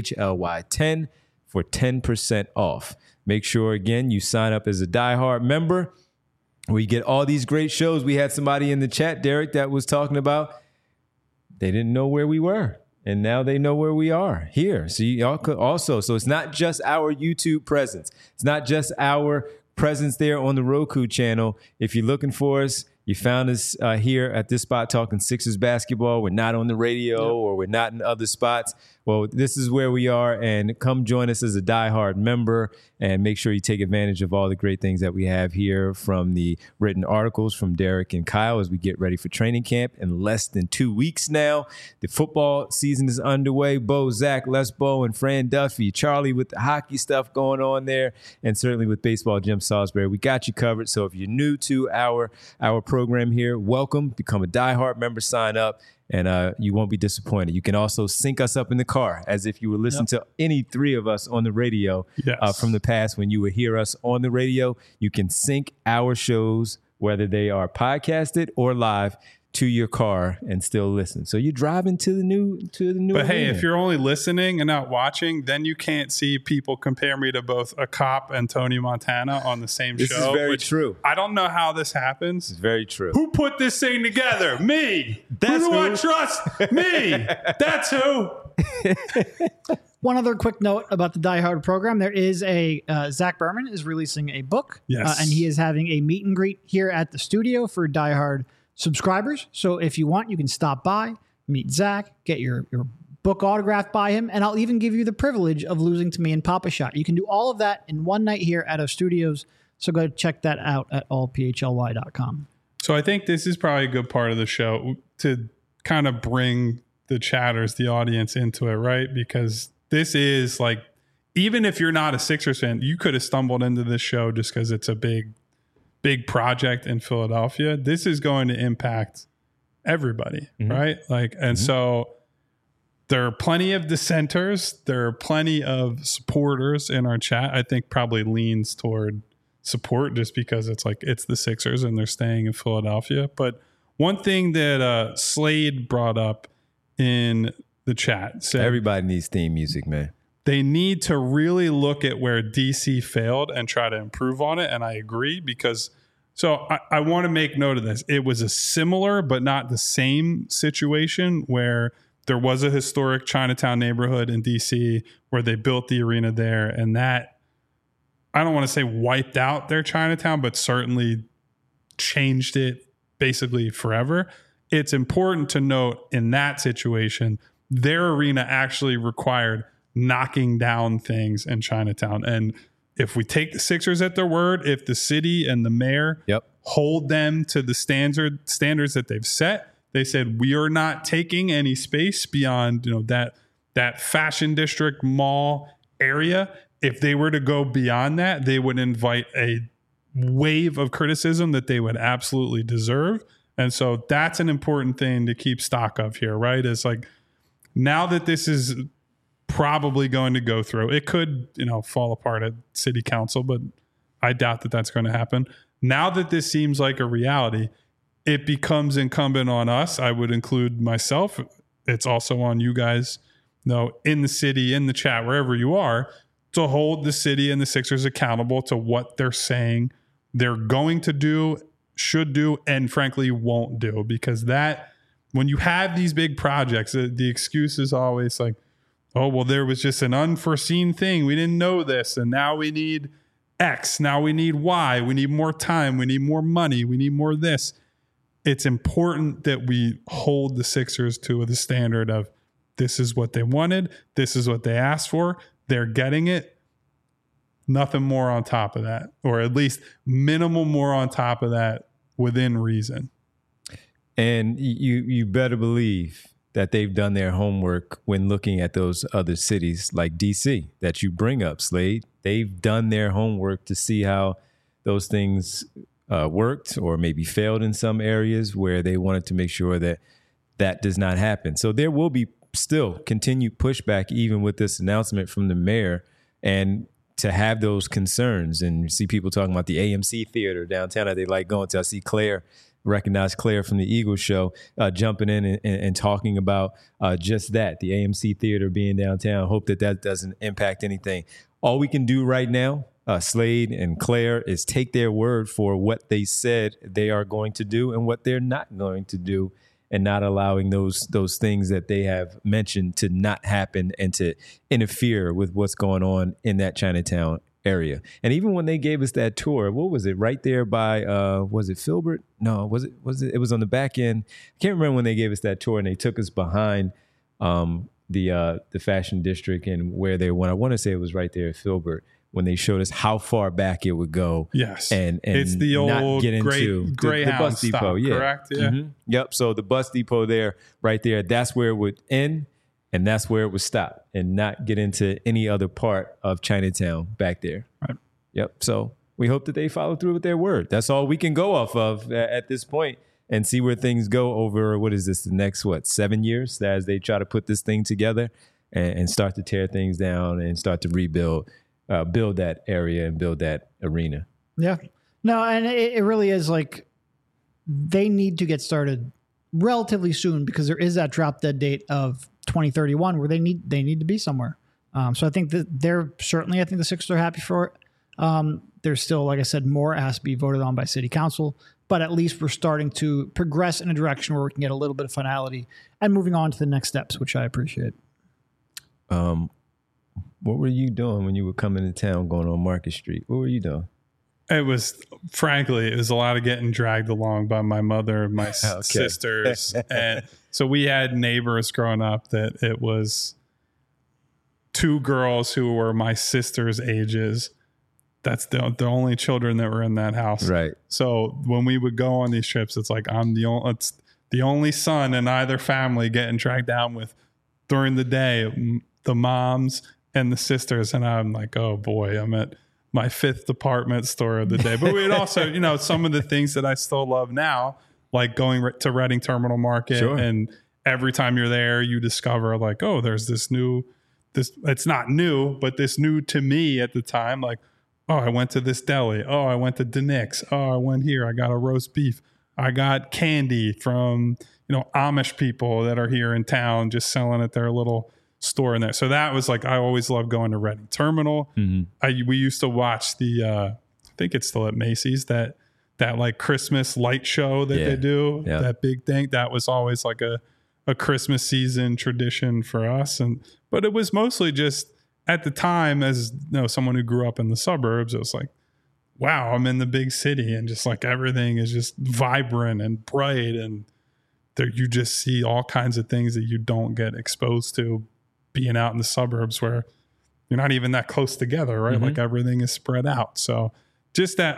PHLY10 for 10% off. Make sure, again, you sign up as a diehard member where you get all these great shows. We had somebody in the chat, Derek, that was talking about they didn't know where we were. And now they know where we are here. So y'all could also, so it's not just our YouTube presence. It's not just our presence there on the Roku channel. If you're looking for us, you found us here at this spot talking Sixers basketball. We're not on the radio or we're not in other spots. Well, this is where we are, and come join us as a diehard member and make sure you take advantage of all the great things that we have here, from the written articles from Derek and Kyle as we get ready for training camp in less than 2 weeks now. The football season is underway. Bo, Zach, Les Bo, and Fran Duffy, Charlie with the hockey stuff going on there, and certainly with baseball, Jim Salisbury. We got you covered. So if you're new to our program here, welcome. Become a diehard member, sign up, and you won't be disappointed. You can also sync us up in the car as if you were listening to any three of us on the radio from the past when you would hear us on the radio. You can sync our shows, whether they are podcasted or live, to your car and still listen. So you're driving to the new But hey, arena. if you're only listening and not watching, then you can't see people compare me to both a cop and Tony Montana on the same show. This is very true. I don't know how this happens. It's very true. Who put this thing together? Me. That's who do who. I trust? Me. That's who. One other quick note about the Die Hard program. There is a Zach Berman is releasing a book. Yes. And he is having a meet and greet here at the studio for Die Hard subscribers. So if you want, you can stop by, meet Zach, get your book autographed by him, and I'll even give you the privilege of losing to me in Papa Shot. You can do all of that in one night here at our studios. So go check that out at allphly.com. So I think this is probably a good part of the show to kind of bring the chatters, the audience, into it, right? Because this is like, even if you're not a Sixers fan, you could have stumbled into this show just because it's a big project in Philadelphia. This is going to impact everybody, right? Like, and so there are plenty of dissenters. There are plenty of supporters in our chat. I think probably leans toward support just because it's like, it's the Sixers and they're staying in Philadelphia. But one thing that Slade brought up in the chat said, everybody needs theme music, man. They need to really look at where DC failed and try to improve on it. And I agree, because I want to make note of this. It was a similar but not the same situation where there was a historic Chinatown neighborhood in DC where they built the arena there. And that, I don't want to say wiped out their Chinatown, but certainly changed it basically forever. It's important to note in that situation, their arena actually required knocking down things in Chinatown. And if we take the Sixers at their word, if the city and the mayor hold them to the standards that they've set, they said, we are not taking any space beyond, that fashion district mall area. If they were to go beyond that, they would invite a wave of criticism that they would absolutely deserve. And so that's an important thing to keep stock of here, right? It's like, now that this is probably going to go through, it could, fall apart at city council, but I doubt that that's going to happen. Now that this seems like a reality, it becomes incumbent on us. I would include myself. It's also on you guys, in the city, in the chat, wherever you are, to hold the city and the Sixers accountable to what they're saying they're going to do, should do, and frankly won't do. Because that, when you have these big projects, the excuse is always like, oh, well, there was just an unforeseen thing. We didn't know this. And now we need X. Now we need Y. We need more time. We need more money. We need more this. It's important that we hold the Sixers to the standard of, this is what they wanted. This is what they asked for. They're getting it. Nothing more on top of that, or at least minimal more on top of that within reason. And you better believe that they've done their homework when looking at those other cities like DC that you bring up, Slade. They've done their homework to see how those things worked or maybe failed in some areas where they wanted to make sure that that does not happen. So there will be still continued pushback even with this announcement from the mayor, and to have those concerns and see people talking about the AMC theater downtown that they like going to. I see recognize Claire from the Eagles show jumping in and talking about just that, the AMC theater being downtown. Hope that doesn't impact anything. All we can do right now, Slade and Claire, is take their word for what they said they are going to do and what they're not going to do. and not allowing those things that they have mentioned to not happen and to interfere with what's going on in that Chinatown area. And even when they gave us that tour, what was it, right there by was it Filbert? No, was it it was on the back end. I can't remember when they gave us that tour and they took us behind the fashion district and where they went. I want to say it was right there at Filbert when they showed us how far back it would go. Yes. And it's the old Greyhound the bus depot, stop, correct? Yeah. Mm-hmm. Yep. So the bus depot there, right there, that's where it would end. And that's where it would stop and not get into any other part of Chinatown back there. Right. Yep. So we hope that they follow through with their word. That's all we can go off of at this point and see where things go over, what is this, the next, 7 years as they try to put this thing together and start to tear things down and start to rebuild, build that area and build that arena. Yeah. No, and it really is like they need to get started relatively soon because there is that drop dead date of 2031 where they need to be somewhere. So I think that I think the Sixers are happy for it. There's still, like I said, more has to be voted on by city council, but at least we're starting to progress in a direction where we can get a little bit of finality and moving on to the next steps, which I appreciate. What were you doing when you were coming to town going on Market Street? What were you doing? It was a lot of getting dragged along by my mother and my sisters. And so we had neighbors growing up that it was two girls who were my sister's ages. That's the only children that were in that house. Right. So when we would go on these trips, it's like it's the only son in either family getting dragged down with during the day, the moms and the sisters. And I'm like, oh boy, I'm at my fifth department store of the day. But we'd also, some of the things that I still love now, like going to Reading Terminal Market. Sure. And every time you're there, you discover like, oh, there's this it's not new, but this new to me at the time, like, oh, I went to this deli. Oh, I went to Denick's. Oh, I went here. I got a roast beef. I got candy from, Amish people that are here in town just selling at their little store in there. So that was like, I always loved going to Reading Terminal. Mm-hmm. We used to watch I think it's still at Macy's, that like Christmas light show that they do, that big thing. That was always like a Christmas season tradition for us. But it was mostly just at the time, as someone who grew up in the suburbs, it was like, wow, I'm in the big city and just like everything is just vibrant and bright. And there you just see all kinds of things that you don't get exposed to being out in the suburbs where you're not even that close together, right? Mm-hmm. Like everything is spread out. So just that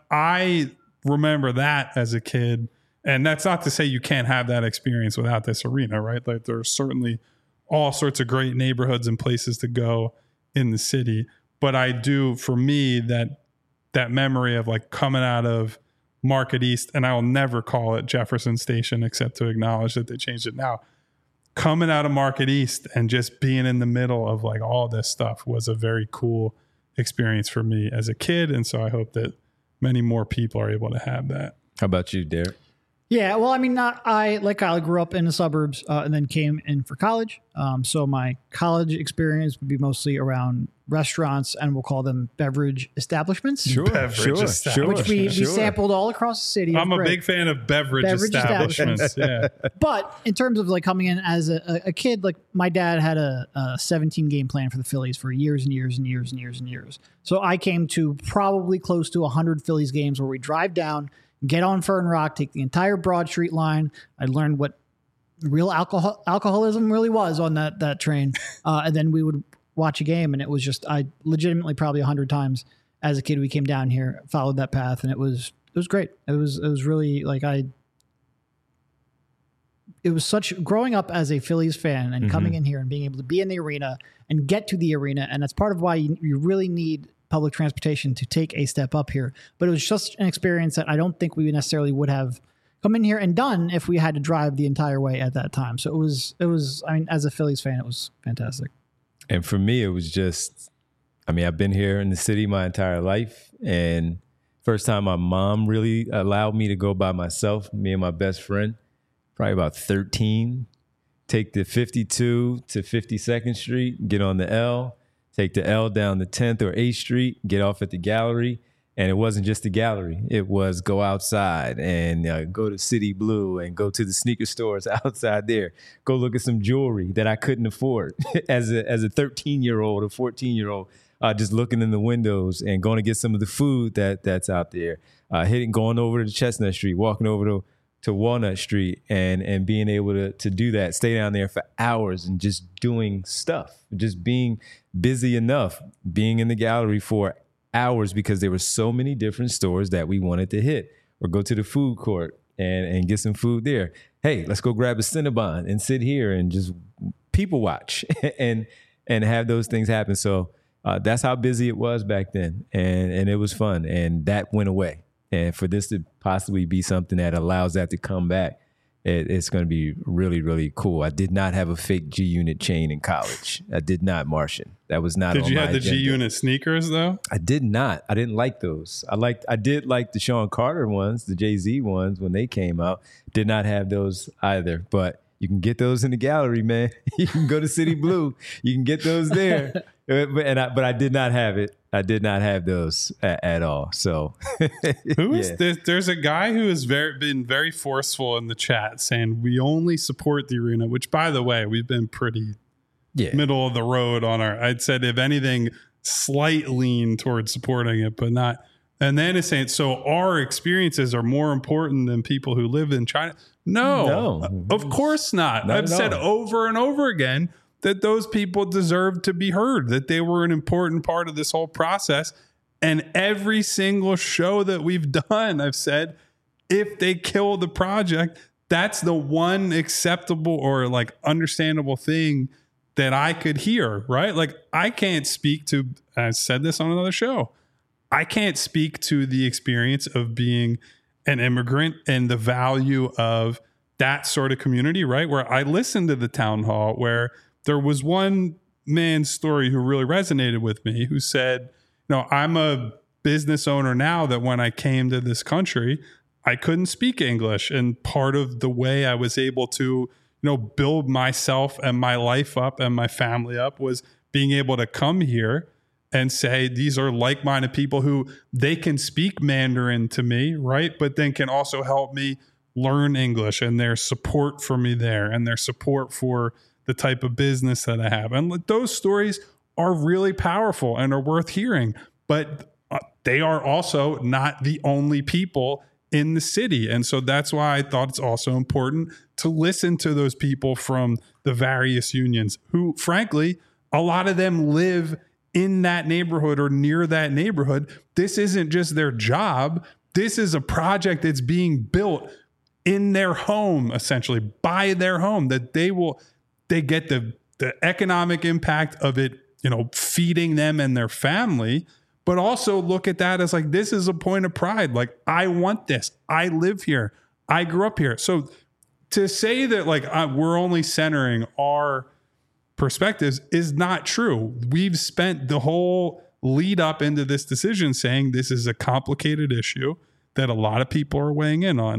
I remember that as a kid. And that's not to say you can't have that experience without this arena, right? Like there's certainly all sorts of great neighborhoods and places to go in the city. But I do, for me, that memory of like coming out of Market East, and I'll never call it Jefferson Station except to acknowledge that they changed it now. Coming out of Market East and just being in the middle of like all this stuff was a very cool experience for me as a kid. And so I hope that many more people are able to have that. How about you, Derek? Yeah, well, I mean, like Kyle, grew up in the suburbs and then came in for college. So my college experience would be mostly around restaurants, and we'll call them beverage establishments. Sure. Which we sampled all across the city. I'm a big fan of beverage establishments. Yeah. But in terms of like coming in as a kid, like my dad had a 17 game plan for the Phillies for years and years and years and years and years. So I came to probably close to 100 Phillies games where we drive down, get on Fern Rock, take the entire Broad Street line. I learned what real alcoholism really was on that train. And then we would watch a game, and it was just, I legitimately probably 100 times as a kid, we came down here, followed that path, and it was great. It was really like it was such, growing up as a Phillies fan and coming in here and being able to be in the arena and get to the arena. And that's part of why you really need public transportation to take a step up here. But it was just an experience that I don't think we necessarily would have come in here and done if we had to drive the entire way at that time. So it was, I mean, as a Phillies fan, it was fantastic. And for me, it was just, I mean, I've been here in the city my entire life. And first time my mom really allowed me to go by myself, me and my best friend, probably about 13, take the 52 to 52nd Street, get on the L, take the L down to 10th or 8th Street, get off at the gallery, And it wasn't just the gallery. It was go outside and go to City Blue and go to the sneaker stores outside there. Go look at some jewelry that I couldn't afford as a 13-year-old or 14-year-old, just looking in the windows and going to get some of the food that's out there. Going over to Chestnut Street, walking over to Walnut Street and being able to do that, stay down there for hours and just doing stuff, just being busy enough, being in the gallery for hours because there were so many different stores that we wanted to hit, or go to the food court and get some food there. Hey, let's go grab a Cinnabon and sit here and just people watch and have those things happen. So that's how busy it was back then. And it was fun. And that went away. And for this to possibly be something that allows that to come back, it's going to be really, really cool. I did not have a fake G-Unit chain in college. I did not, Martian. That was not on my agenda. Did you have the G-Unit sneakers, though? I did not. I didn't like those. I did like the Sean Carter ones, the Jay-Z ones when they came out. Did not have those either. But you can get those in the gallery, man. You can go to City Blue. You can get those there. But I did not have it. I did not have those at all. So who is this? There's a guy who has been very forceful in the chat saying we only support the arena, which, by the way, we've been pretty middle of the road on I'd said, if anything, slight lean towards supporting it, but not. And then it's saying, so our experiences are more important than people who live in China. No, of course not. I've said over and over again that those people deserve to be heard, that they were an important part of this whole process. And every single show that we've done, I've said, if they kill the project, that's the one acceptable or like understandable thing that I could hear, right? Like I can't speak to, I said this on another show, I can't speak to the experience of being an immigrant and the value of that sort of community, right? Where I listened to the town hall where there was one man's story who really resonated with me, who said, I'm a business owner now that when I came to this country, I couldn't speak English. And part of the way I was able to, build myself and my life up and my family up was being able to come here and say, these are like-minded people who they can speak Mandarin to me, right? But then can also help me learn English, and their support for me there and their support for the type of business that I have. And those stories are really powerful and are worth hearing, but they are also not the only people in the city. And so that's why I thought it's also important to listen to those people from the various unions who, frankly, a lot of them live in that neighborhood or near that neighborhood. This isn't just their job. This is a project that's being built in their home, essentially by their home, that they get the economic impact of it, feeding them and their family, but also look at that as like, this is a point of pride. Like, I want this. I live here. I grew up here. So to say that like we're only centering our perspectives is not true. We've spent the whole lead up into this decision saying this is a complicated issue that a lot of people are weighing in on.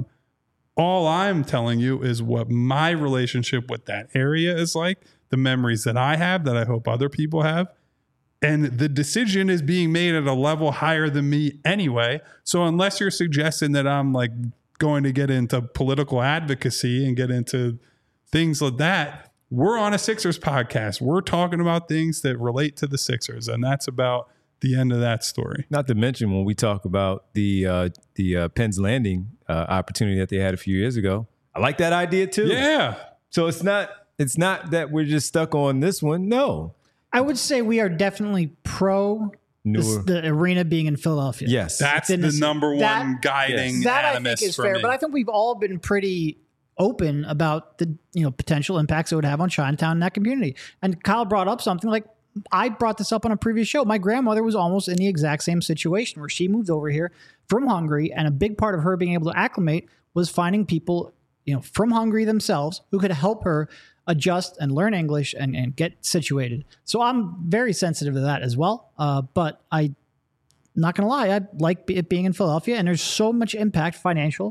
All I'm telling you is what my relationship with that area is like, the memories that I have, that I hope other people have. And the decision is being made at a level higher than me anyway. So unless you're suggesting that I'm like going to get into political advocacy and get into things like that, we're on a Sixers podcast. We're talking about things that relate to the Sixers. And that's about the end of that story. Not to mention when we talk about the Penn's Landing opportunity that they had a few years ago. I like that idea too. Yeah. So it's not that we're just stuck on this one. No. I would say we are definitely pro the arena being in Philadelphia. Yes. That's the number one guiding that I think is fair. Me. But I think we've all been pretty open about the potential impacts it would have on Chinatown and that community. And Kyle brought up something like, I brought this up on a previous show. My grandmother was almost in the exact same situation where she moved over here from Hungary, and a big part of her being able to acclimate was finding people, from Hungary themselves who could help her adjust and learn English and get situated. So I'm very sensitive to that as well. But I'm not going to lie, I like it being in Philadelphia, and there's so much impact financial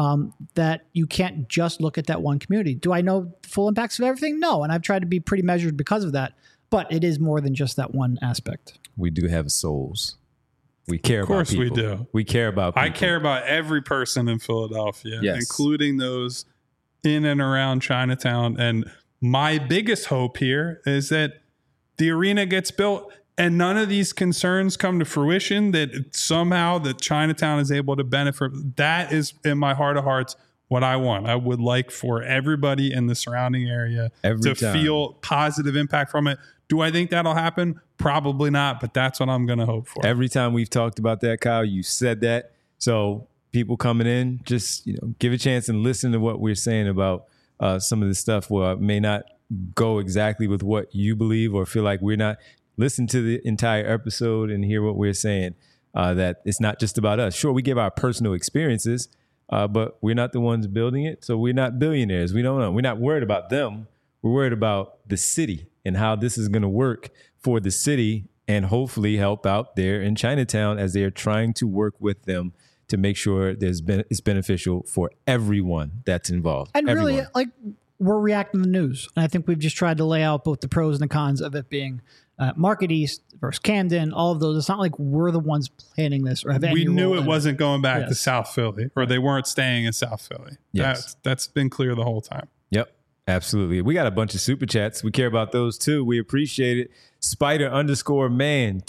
that you can't just look at that one community. Do I know the full impacts of everything? No. And I've tried to be pretty measured because of that. But it is more than just that one aspect. We do have souls. We care about people. Of course we do. We care about people. I care about every person in Philadelphia, including those in and around Chinatown. And my biggest hope here is that the arena gets built and none of these concerns come to fruition, that somehow that Chinatown is able to benefit. That is, in my heart of hearts, what I want. I would like for everybody in the surrounding area to feel positive impact from it. Do I think that'll happen? Probably not, but that's what I'm going to hope for. Every time we've talked about that, Kyle, you said that. So people coming in, just give a chance and listen to what we're saying about some of the stuff where it may not go exactly with what you believe or feel like we're not. Listen to the entire episode and hear what we're saying, that it's not just about us. Sure, we give our personal experiences, but we're not the ones building it. So we're not billionaires. We don't know. We're not worried about them. We're worried about the city and how this is going to work for the city and hopefully help out there in Chinatown as they're trying to work with them to make sure it's beneficial for everyone that's involved. And everyone. Really, we're reacting to the news. And I think we've just tried to lay out both the pros and the cons of it being Market East versus Camden, all of those. It's not like we're the ones planning this or have any. We knew it wasn't going back to South Philly, or they weren't staying in South Philly. Yes. That's been clear the whole time. Yep, absolutely. We got a bunch of super chats. We care about those too. We appreciate it. Spider_man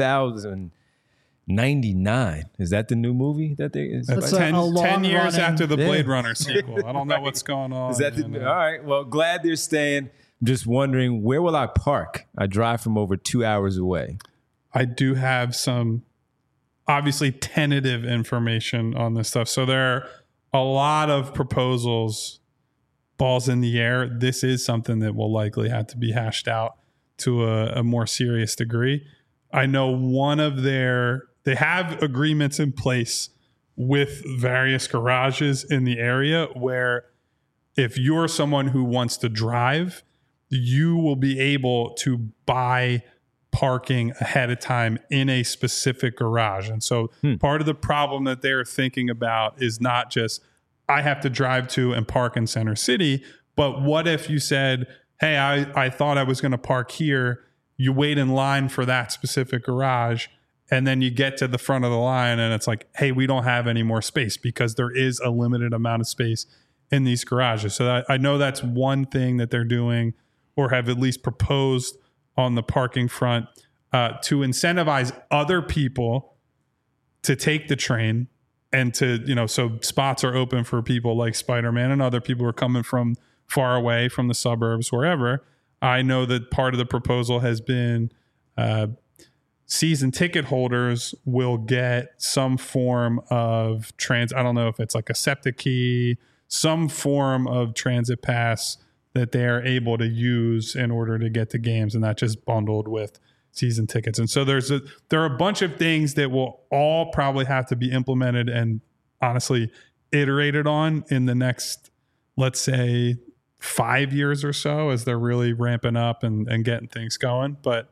2099. Is that the new movie that they is? That's 10 years after the Blade Runner sequel. I don't know what's going on. Is that all right? Well, glad they're staying. Just wondering, where will I park? I drive from over 2 hours away. I do have some, obviously, tentative information on this stuff. So there are a lot of proposals, balls in the air. This is something that will likely have to be hashed out to a more serious degree. I know they have agreements in place with various garages in the area where if you're someone who wants to drive, you will be able to buy parking ahead of time in a specific garage. And so part of the problem that they're thinking about is not just, I have to drive to and park in Center City, but what if you said, hey, I thought I was going to park here. You wait in line for that specific garage, and then you get to the front of the line and it's like, hey, we don't have any more space, because there is a limited amount of space in these garages. So I know that's one thing that they're doing, or have at least proposed on the parking front, to incentivize other people to take the train and to, so spots are open for people like Spider-Man and other people who are coming from far away from the suburbs, wherever. I know that part of the proposal has been season ticket holders will get some form of I don't know if it's like a SEPTA key, some form of transit pass that they are able to use in order to get to games, and not just bundled with season tickets. And so there are a bunch of things that will all probably have to be implemented and honestly iterated on in the next, let's say, 5 years or so, as they're really ramping up and getting things going. But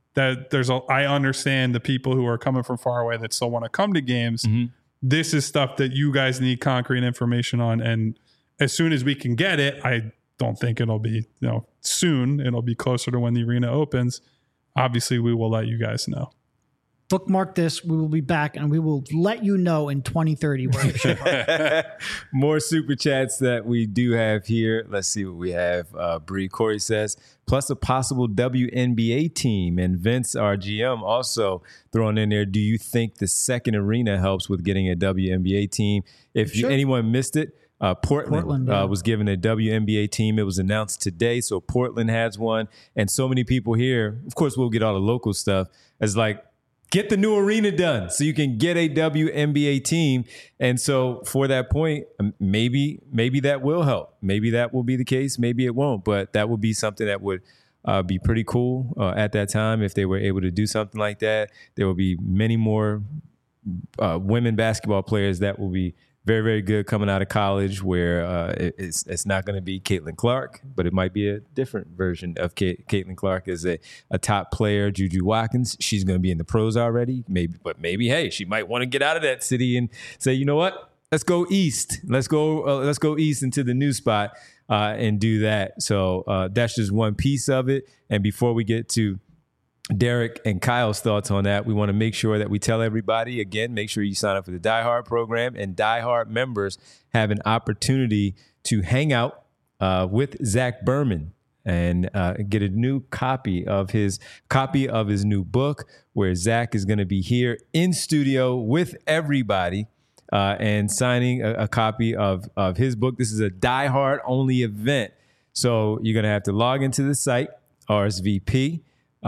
I understand the people who are coming from far away that still want to come to games. Mm-hmm. This is stuff that you guys need concrete information on. And as soon as we can get it, I don't think it'll be soon. It'll be closer to when the arena opens. Obviously, we will let you guys know. Bookmark this. We will be back, and we will let you know in 2030 where it should park. More super chats that we do have here. Let's see what we have. Bree Corey says, plus a possible WNBA team. And Vince, our GM, also throwing in there, do you think the second arena helps with getting a WNBA team? If anyone missed it, Portland was given a WNBA team. It was announced today, so Portland has one. And so many people here, of course, we'll get all the local stuff, as like, get the new arena done so you can get a WNBA team. And so for that point, maybe that will help. Maybe that will be the case. Maybe it won't. But that would be something that would be pretty cool at that time if they were able to do something like that. There will be many more women basketball players that will be very, very good coming out of college, where it's not going to be Caitlin Clark, but it might be a different version of Caitlin Clark as a top player. Juju Watkins, she's going to be in the pros already, maybe, hey, she might want to get out of that city and say, you know what, let's go east. Let's go east into the new spot and do that. So that's just one piece of it. And before we get to Derek and Kyle's thoughts on that. We want to make sure that we tell everybody, again, make sure you sign up for the Die Hard program, and Die Hard members have an opportunity to hang out with Zach Berman and get a new copy of his new book, where Zach is going to be here in studio with everybody and signing a copy of his book. This is a Die Hard only event. So you're going to have to log into the site, RSVP,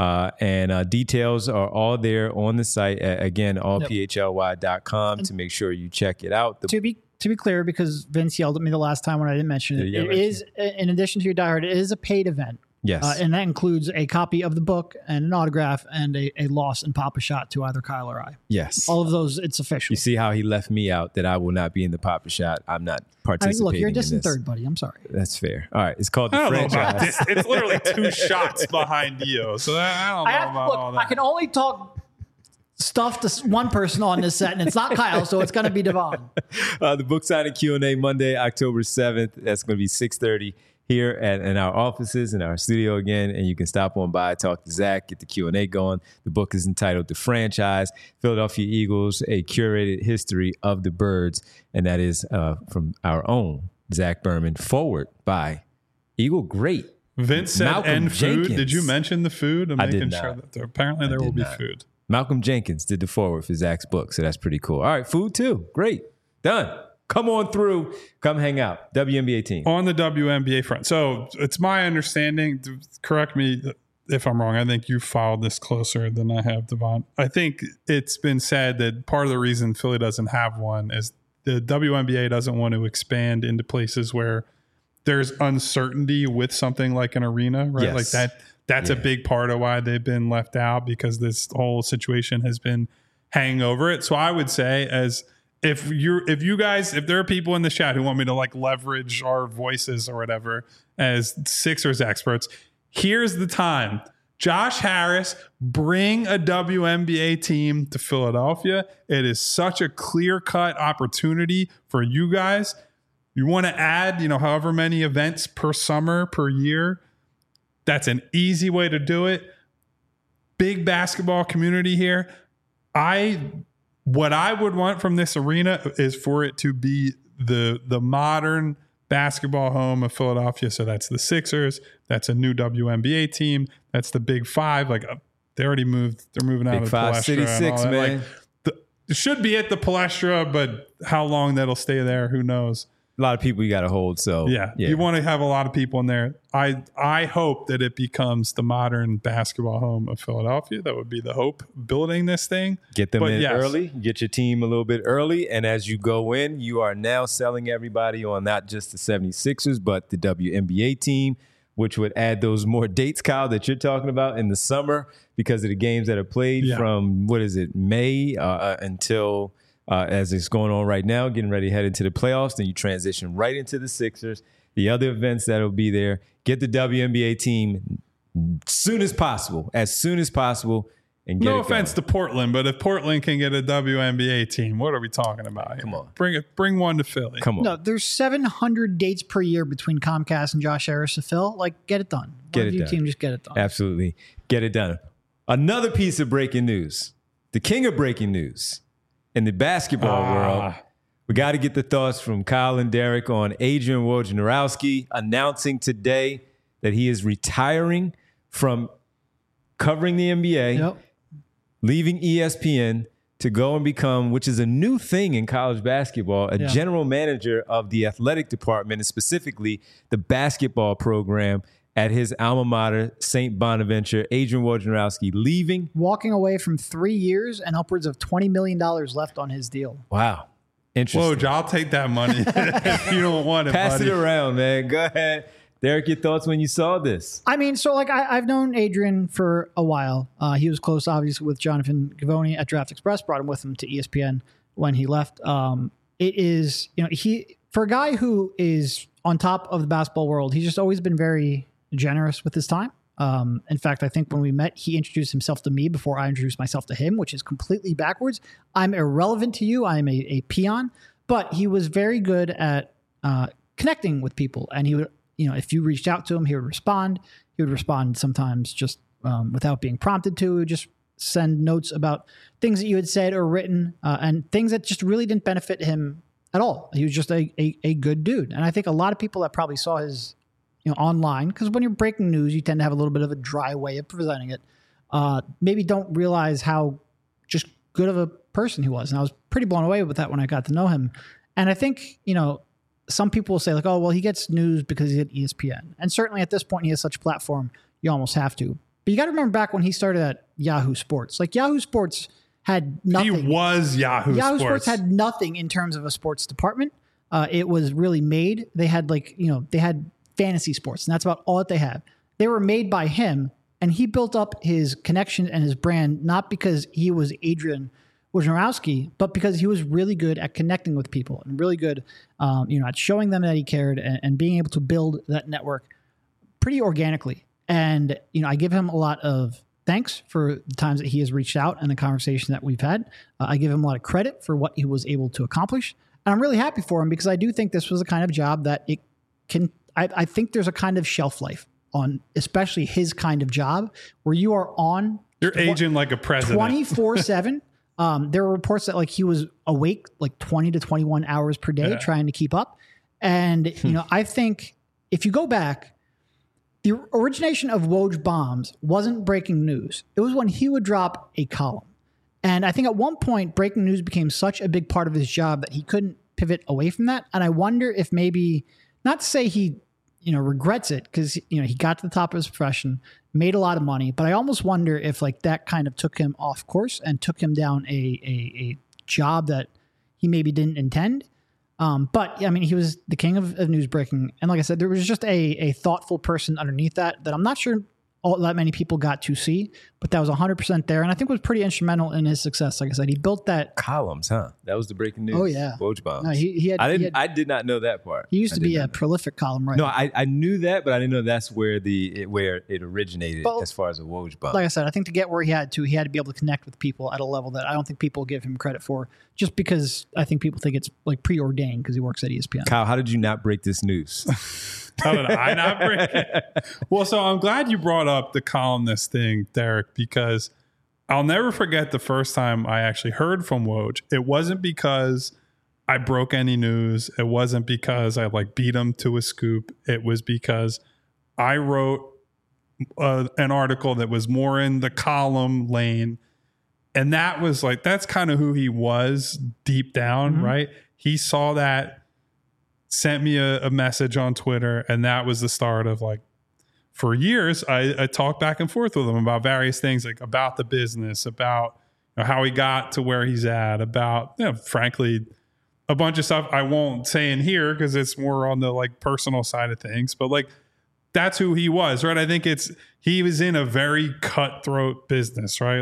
and details are all there on the site. Again, allphly.com to make sure you check it out. To be clear, because Vince yelled at me the last time when I didn't mention it, it is, in addition to your Die Hard, it is a paid event. Yes. And that includes a copy of the book and an autograph and a loss and pop a shot to either Kyle or I. Yes. All of those, it's official. You see how he left me out, that I will not be in the pop a shot. I'm not participating. Look, you're a distant third, buddy. I'm sorry. That's fair. All right. It's called The Franchise. It's literally 2 shots behind you. So I don't know about all that. I can only talk stuff to one person on this set, and it's not Kyle, so it's going to be Devon. The book signing Q&A Monday, October 7th. That's going to be 6:30 here in our offices, in our studio again, and you can stop on by, talk to Zach, get the Q&A going. The book is entitled The Franchise, Philadelphia Eagles, A Curated History of the Birds, and that is from our own Zach Berman, forward by Eagle great Vince said, Malcolm and food. Jenkins. Did you mention the food? I'm making sure that apparently there will be food. Malcolm Jenkins did the forward for Zach's book, so that's pretty cool. All right, food too. Great. Done. Come on through. Come hang out. WNBA team. On the WNBA front. So it's my understanding, correct me if I'm wrong, I think you followed this closer than I have, Devon. I think it's been said that part of the reason Philly doesn't have one is the WNBA doesn't want to expand into places where there's uncertainty with something like an arena, right? Yes. Like that's a big part of why they've been left out, because this whole situation has been hanging over it. So I would say, if there are people in the chat who want me to like leverage our voices or whatever as Sixers experts, here's the time. Josh Harris, bring a WNBA team to Philadelphia. It is such a clear-cut opportunity for you guys. You want to add, however many events per summer, per year. That's an easy way to do it. Big basketball community here. What I would want from this arena is for it to be the modern basketball home of Philadelphia. So that's the Sixers. That's a new WNBA team. That's the Big Five. Like they already moved. They're moving out Big of Five, Palestra. City Six, man. It should be at the Palestra, but how long that'll stay there, who knows? A lot of people you got to hold. So yeah, you want to have a lot of people in there. I hope that it becomes the modern basketball home of Philadelphia. That would be the hope, building this thing. Get them in early, get your team a little bit early. And as you go in, you are now selling everybody on not just the 76ers, but the WNBA team, which would add those more dates, Kyle, that you're talking about in the summer because of the games that are played from, May until as it's going on right now, getting ready to head into the playoffs. Then you transition right into the Sixers, the other events that'll be there. Get the WNBA team as soon as possible, and get no offense to Portland, but if Portland can get a WNBA team, what are we talking about here? Come on. Bring one to Philly. Come on. No, there's 700 dates per year between Comcast and Josh Harris to fill. Like, get it done. Get it done. Team, just get it done. Absolutely. Get it done. Another piece of breaking news. The king of breaking news in the basketball world. We got to get the thoughts from Kyle and Derek on Adrian Wojnarowski announcing today that he is retiring from covering the NBA, leaving ESPN to go and become, which is a new thing in college basketball, a general manager of the athletic department, and specifically the basketball program at his alma mater, St. Bonaventure. Adrian Wojnarowski leaving. Walking away from 3 years and upwards of $20 million left on his deal. Wow. Interesting. Woj, I'll take that money if you don't want it, Pass buddy. it around, man. Go ahead. Derek, your thoughts when you saw this? I mean, so like I've known Adrian for a while. He was close, obviously, with Jonathan Givony at Draft Express, brought him with him to ESPN when he left. It is, he, for a guy who is on top of the basketball world, he's just always been very generous with his time. In fact, I think when we met, he introduced himself to me before I introduced myself to him, which is completely backwards. I'm irrelevant to you. I'm a peon, but he was very good at connecting with people. And he would, if you reached out to him, he would respond. He would respond sometimes just without being prompted to. He would just send notes about things that you had said or written and things that just really didn't benefit him at all. He was just a good dude. And I think a lot of people that probably saw his, online, because when you're breaking news, you tend to have a little bit of a dry way of presenting it, maybe don't realize how just good of a person he was. And I was pretty blown away with that when I got to know him. And I think, some people will say like, oh, well, he gets news because he's at ESPN. And certainly at this point, he has such a platform, you almost have to. But you got to remember back when he started at Yahoo Sports. Like Yahoo Sports had nothing. He was Yahoo Sports. Yahoo Sports had nothing in terms of a sports department. It was really made. They had they had fantasy sports, and that's about all that they had. They were made by him, and he built up his connection and his brand not because he was Adrian Wojnarowski, but because he was really good at connecting with people and really good, at showing them that he cared and being able to build that network pretty organically. And, I give him a lot of thanks for the times that he has reached out and the conversation that we've had. I give him a lot of credit for what he was able to accomplish. And I'm really happy for him because I do think this was the kind of job that it can, I think there's a kind of shelf life on especially his kind of job where you are on. You're aging like a president. 24/7. There were reports that he was awake 20 to 21 hours per day trying to keep up. And, I think if you go back, the origination of Woj Bombs wasn't breaking news. It was when he would drop a column. And I think at one point, breaking news became such a big part of his job that he couldn't pivot away from that. And I wonder if maybe, not to say he, regrets it, because, he got to the top of his profession, made a lot of money. But I almost wonder if that kind of took him off course and took him down a job that he maybe didn't intend. But he was the king of news breaking. And like I said, there was just a thoughtful person underneath that I'm not sure all that many people got to see, but that was 100% there. And I think was pretty instrumental in his success. Like I said, he built that columns, huh? That was the breaking news. Oh yeah. Woj Bombs. No, I did not know that part. He used to be a prolific column writer. No, I knew that, but I didn't know that's where it originated as far as a Woj Bomb. Like I said, I think to get where he had to be able to connect with people at a level that I don't think people give him credit for, just because I think people think it's preordained because he works at ESPN. Kyle, how did you not break this news? How did I not break it? Well, so I'm glad you brought up the columnist thing, Derek, because I'll never forget the first time I actually heard from Woj. It wasn't because I broke any news. It wasn't because I beat him to a scoop. It was because I wrote an article that was more in the column lane. And that was that's kind of who he was deep down, right? He saw that, sent me a message on Twitter, and that was the start of for years, I talked back and forth with him about various things, about the business, about how he got to where he's at, about, frankly, a bunch of stuff I won't say in here because it's more on the personal side of things, but that's who he was, right? I think he was in a very cutthroat business, right?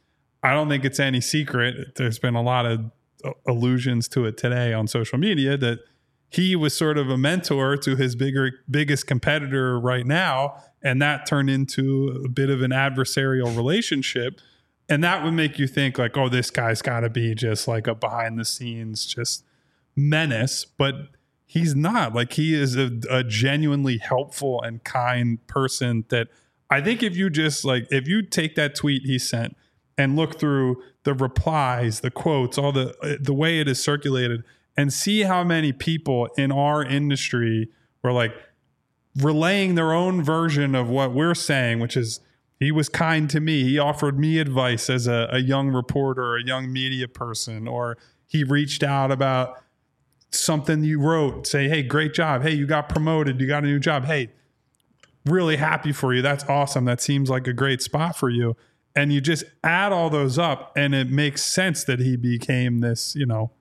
I don't think it's any secret. There's been a lot of allusions to it today on social media that he was sort of a mentor to his biggest competitor right now. And that turned into a bit of an adversarial relationship. And that would make you think oh, this guy's got to be just a behind the scenes, just menace. But he's not. He is a genuinely helpful and kind person that I think if you just if you take that tweet he sent and look through the replies, the quotes, all the way it is circulated, and see how many people in our industry were relaying their own version of what we're saying, which is he was kind to me. He offered me advice as a young reporter, a young media person, or he reached out about something you wrote, say, hey, great job. Hey, you got promoted. You got a new job. Hey, really happy for you. That's awesome. That seems like a great spot for you. And you just add all those up and it makes sense that he became this,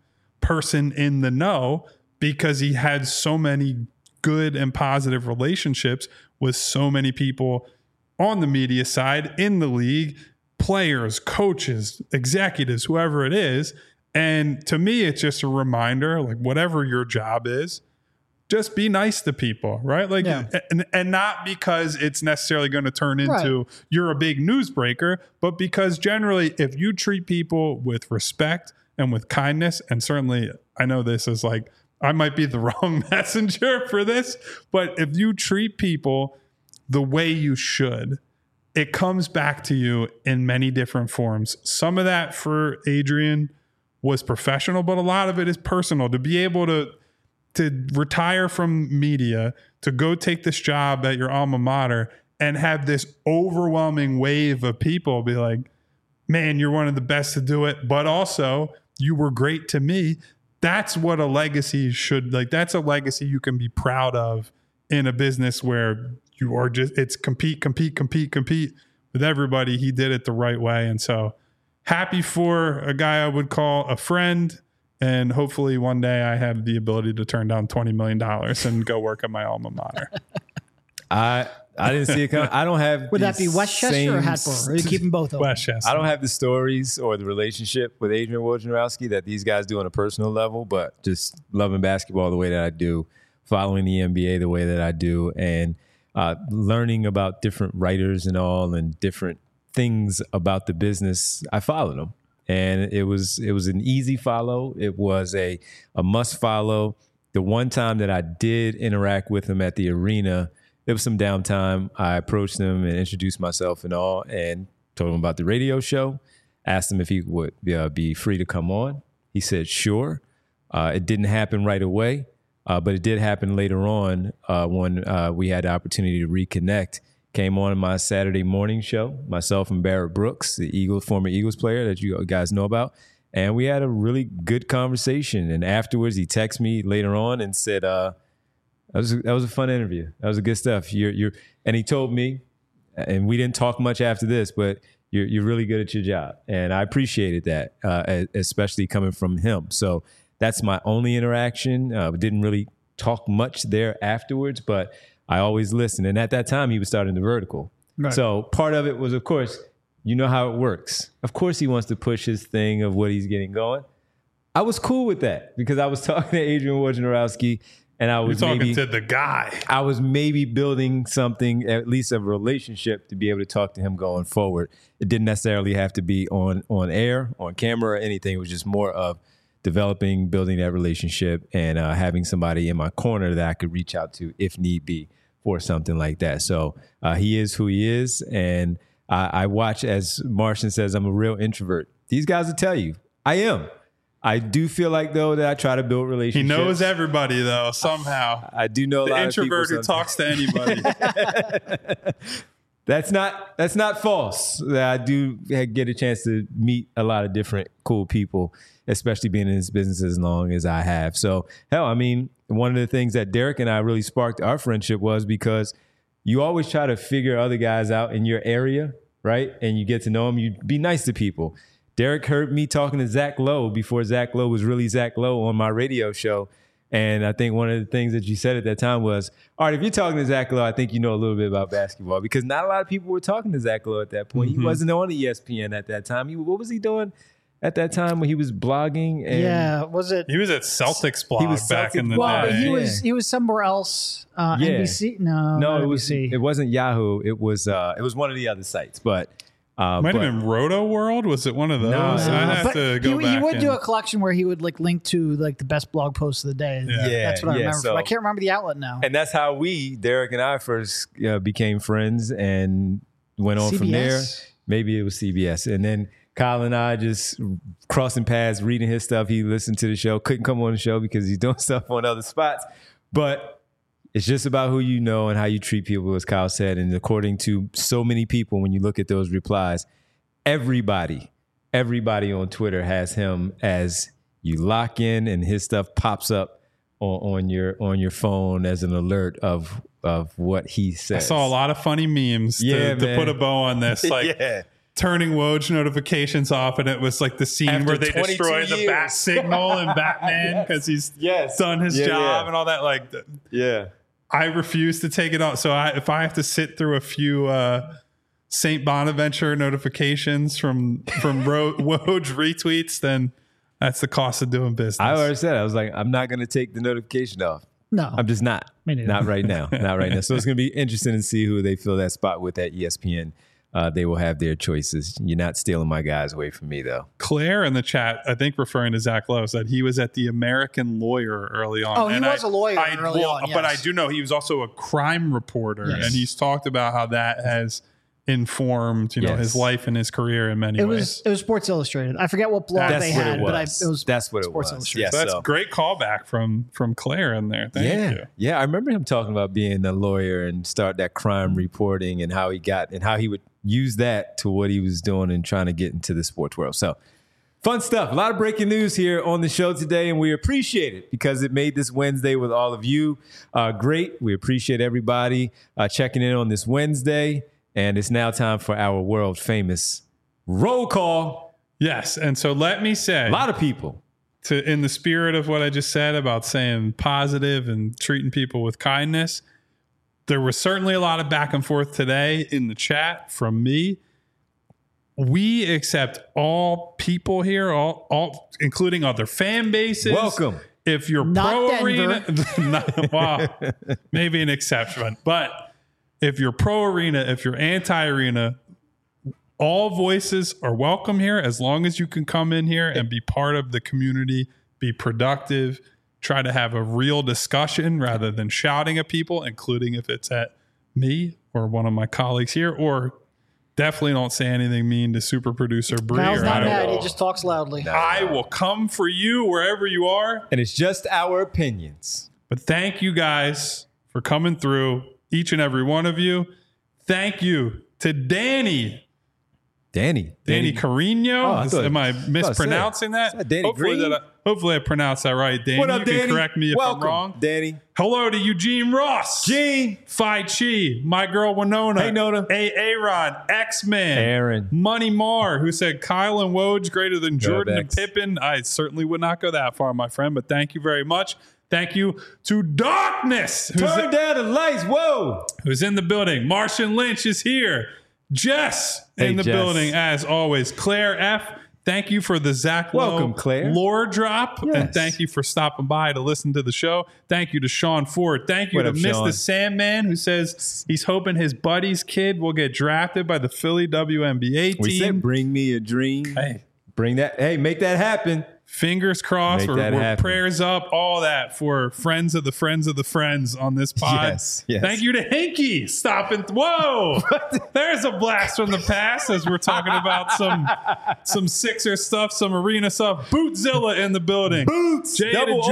person in the know because he had so many good and positive relationships with so many people on the media side, in the league, players, coaches, executives, whoever it is. And to me, it's just a reminder, whatever your job is, just be nice to people, right? And not because it's necessarily going to turn into you're a big newsbreaker, but because generally if you treat people with respect and with kindness, and certainly I know this is I might be the wrong messenger for this, but if you treat people the way you should, it comes back to you in many different forms. Some of that for Adrian was professional, but a lot of it is personal. To be able to retire from media, to go take this job at your alma mater and have this overwhelming wave of people be like, man, you're one of the best to do it, but also you were great to me. That's what a legacy should, like, that's a legacy you can be proud of in a business where you are just, it's compete with everybody. He did it the right way. And so happy for a guy I would call a friend. And hopefully one day I have the ability to turn down $20 million and go work at my alma mater. I didn't see it coming. I don't have. Would that be Westchester or Hatboro? Or are you keeping both of them? Westchester. I don't have the stories or the relationship with Adrian Wojnarowski that these guys do on a personal level, but just loving basketball the way that I do, following the NBA the way that I do, and learning about different writers and all and different things about the business. I followed them. And it was an easy follow. It was a must follow. The one time that I did interact with him at the arena, there was some downtime. I approached him and introduced myself and all, and told him about the radio show. Asked him if he would be free to come on. He said sure. It didn't happen right away, but it did happen later on when we had the opportunity to reconnect. Came on my Saturday morning show, myself and Barrett Brooks, the former Eagles player that you guys know about. And we had a really good conversation. And afterwards, he texted me later on and said, that was a fun interview. That was a good stuff. And he told me, and we didn't talk much after this, but you're really good at your job. And I appreciated that, especially coming from him. So that's my only interaction. We didn't really talk much there afterwards, but I always listen. And at that time, he was starting the vertical. Right. So part of it was, of course, you know how it works. Of course, he wants to push his thing of what he's getting going. I was cool with that because I was talking to Adrian Wojnarowski, and I was talking to the guy. I was maybe building something, at least a relationship, to be able to talk to him going forward. It didn't necessarily have to be on air, on camera, or anything. It was just more of developing, building that relationship, and having somebody in my corner that I could reach out to if need be for something like that. So he is who he is. And I watch, as Martian says, I'm a real introvert. These guys will tell you, I am. I do feel like, though, that I try to build relationships. He knows everybody, though, somehow. I do know a lot of people. The introvert who talks to anybody. That's not false. I do get a chance to meet a lot of different cool people, especially being in this business as long as I have. So, hell, I mean, one of the things that Derek and I really sparked our friendship was because you always try to figure other guys out in your area, right? And you get to know them. You be nice to people. Derek heard me talking to Zach Lowe before Zach Lowe was really Zach Lowe on my radio show. And I think one of the things that you said at that time was, all right, if you're talking to Zach Lowe, I think you know a little bit about basketball, because not a lot of people were talking to Zach Lowe at that point. Mm-hmm. He wasn't on ESPN at that time. What was he doing at that time when he was blogging? And was it? He was at Celtics blog back in the day. Well, he was somewhere else. NBC? No, it wasn't Yahoo. It was one of the other sites, but. Might have been Roto World. Was it one of those? No. I'd have to go back. He would do a collection where he would link to the best blog posts of the day. Yeah, that's what I remember. I can't remember the outlet now. And that's how Derek and I first became friends and went on from there. Maybe it was CBS, and then Kyle and I just crossing paths, reading his stuff. He listened to the show, couldn't come on the show because he's doing stuff on other spots, but. It's just about who you know and how you treat people, as Kyle said. And according to so many people, when you look at those replies, everybody on Twitter has him as you lock in and his stuff pops up on your phone as an alert of what he says. I saw a lot of funny memes to put a bow on this. Turning Woj notifications off, and it was like the scene after where they destroy the bat signal in Batman because he's done his job and all that. I refuse to take it off. So if I have to sit through a few St. Bonaventure notifications from Woj retweets, then that's the cost of doing business. I already said, I was like, I'm not going to take the notification off. No, I'm just not. Not right now. Not right now. So it's going to be interesting to see who they fill that spot with at ESPN. They will have their choices. You're not stealing my guys away from me, though. Claire in the chat, I think referring to Zach Lowe, said he was at the American Lawyer early on. Oh, he was a lawyer early on, yes. But I do know he was also a crime reporter, and he's talked about how that has informed, his life and his career in many ways. It was Sports Illustrated. I forget what blog they had, but it was that's what Sports it was. Illustrated. Yeah, so that's a great callback from Claire in there. Thank you. Yeah, I remember him talking about being a lawyer and start that crime reporting and how he would use that to what he was doing and trying to get into the sports world. So fun stuff. A lot of breaking news here on the show today, and we appreciate it because it made this Wednesday with all of you great. We appreciate everybody checking in on this Wednesday. And it's now time for our world famous roll call. Yes. And so let me say, a lot of people, in the spirit of what I just said about saying positive and treating people with kindness, there was certainly a lot of back and forth today in the chat from me. We accept all people here, all including other fan bases. Welcome. If you're pro arena, well, maybe an exception, but if you're pro arena, if you're anti arena, all voices are welcome here as long as you can come in here and be part of the community, be productive, try to have a real discussion rather than shouting at people, including if it's at me or one of my colleagues here, or definitely don't say anything mean to super producer Bree. Kyle's not mad. He just talks loudly. I will come for you wherever you are. And it's just our opinions. But thank you guys for coming through. Each and every one of you. Thank you to Danny Carino. Am I mispronouncing that? Danny hopefully I pronounced that right. Danny, what up, you Danny? can correct me if I'm wrong. Danny. Hello to Eugene Ross. Gene. Phi Chi. My girl Winona. Hey, Nona. Aaron. X-Man. Aaron. Money Mar, who said Kyle and Woj greater than Jordan and Pippen. I certainly would not go that far, my friend, but thank you very much. Thank you to Darkness. Turn down the lights. Whoa. Who's in the building. Martian Lynch is here. Jess in the building, as always. Claire F., thank you for the Zach Lowe lore drop. Yes. And thank you for stopping by to listen to the show. Thank you to Sean Ford. Thank you to Mr. Sandman, who says he's hoping his buddy's kid will get drafted by the Philly WNBA team. We said bring me a dream. Hey. Make that happen. Fingers crossed, we're prayers up, all that for friends of the friends of the friends on this pod. Yes. Thank you to Hinky stopping. Whoa, there's a blast from the past as we're talking about some Sixer stuff, some arena stuff. Bootzilla in the building. Boots. Jay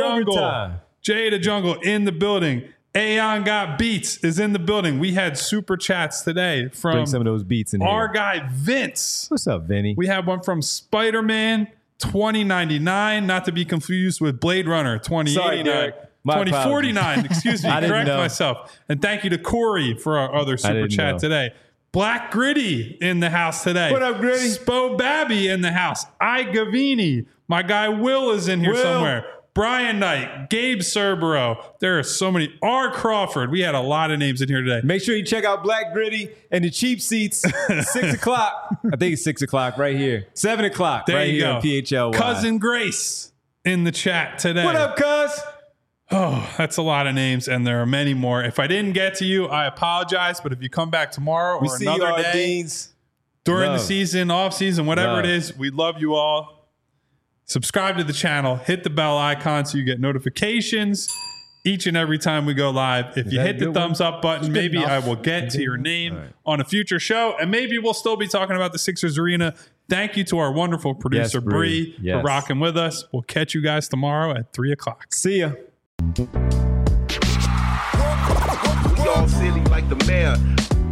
the Jungle in the building. Aeon Got Beats is in the building. We had super chats today from bring some of those beats in our here. Guy Vince. What's up, Vinny? We had one from Spider-Man 2099, not to be confused with Blade Runner 2089. 2049, excuse me, correct myself. And thank you to Corey for our other super chat today. Black Gritty in the house today. What up, Gritty? Spo Babby in the house. I Gavini. My guy Will is in here somewhere. Brian Knight, Gabe Cerbero. There are so many. R. Crawford. We had a lot of names in here today. Make sure you check out Black Gritty and the cheap seats. 6 o'clock. I think it's 6 o'clock right here. 7 o'clock there right you here go. on PHLY. Cousin Grace in the chat today. What up, cuz? Oh, that's a lot of names, and there are many more. If I didn't get to you, I apologize. But if you come back tomorrow or another day during the season, off season, whatever it is, we love you all. Subscribe to the channel, hit the bell icon so you get notifications each and every time we go live. If you hit the thumbs up button, maybe I will get to your name on a future show, and maybe we'll still be talking about the Sixers arena. Thank you to our wonderful producer, Bree, for rocking with us. We'll catch you guys tomorrow at 3 o'clock. See ya. We all silly like the mayor.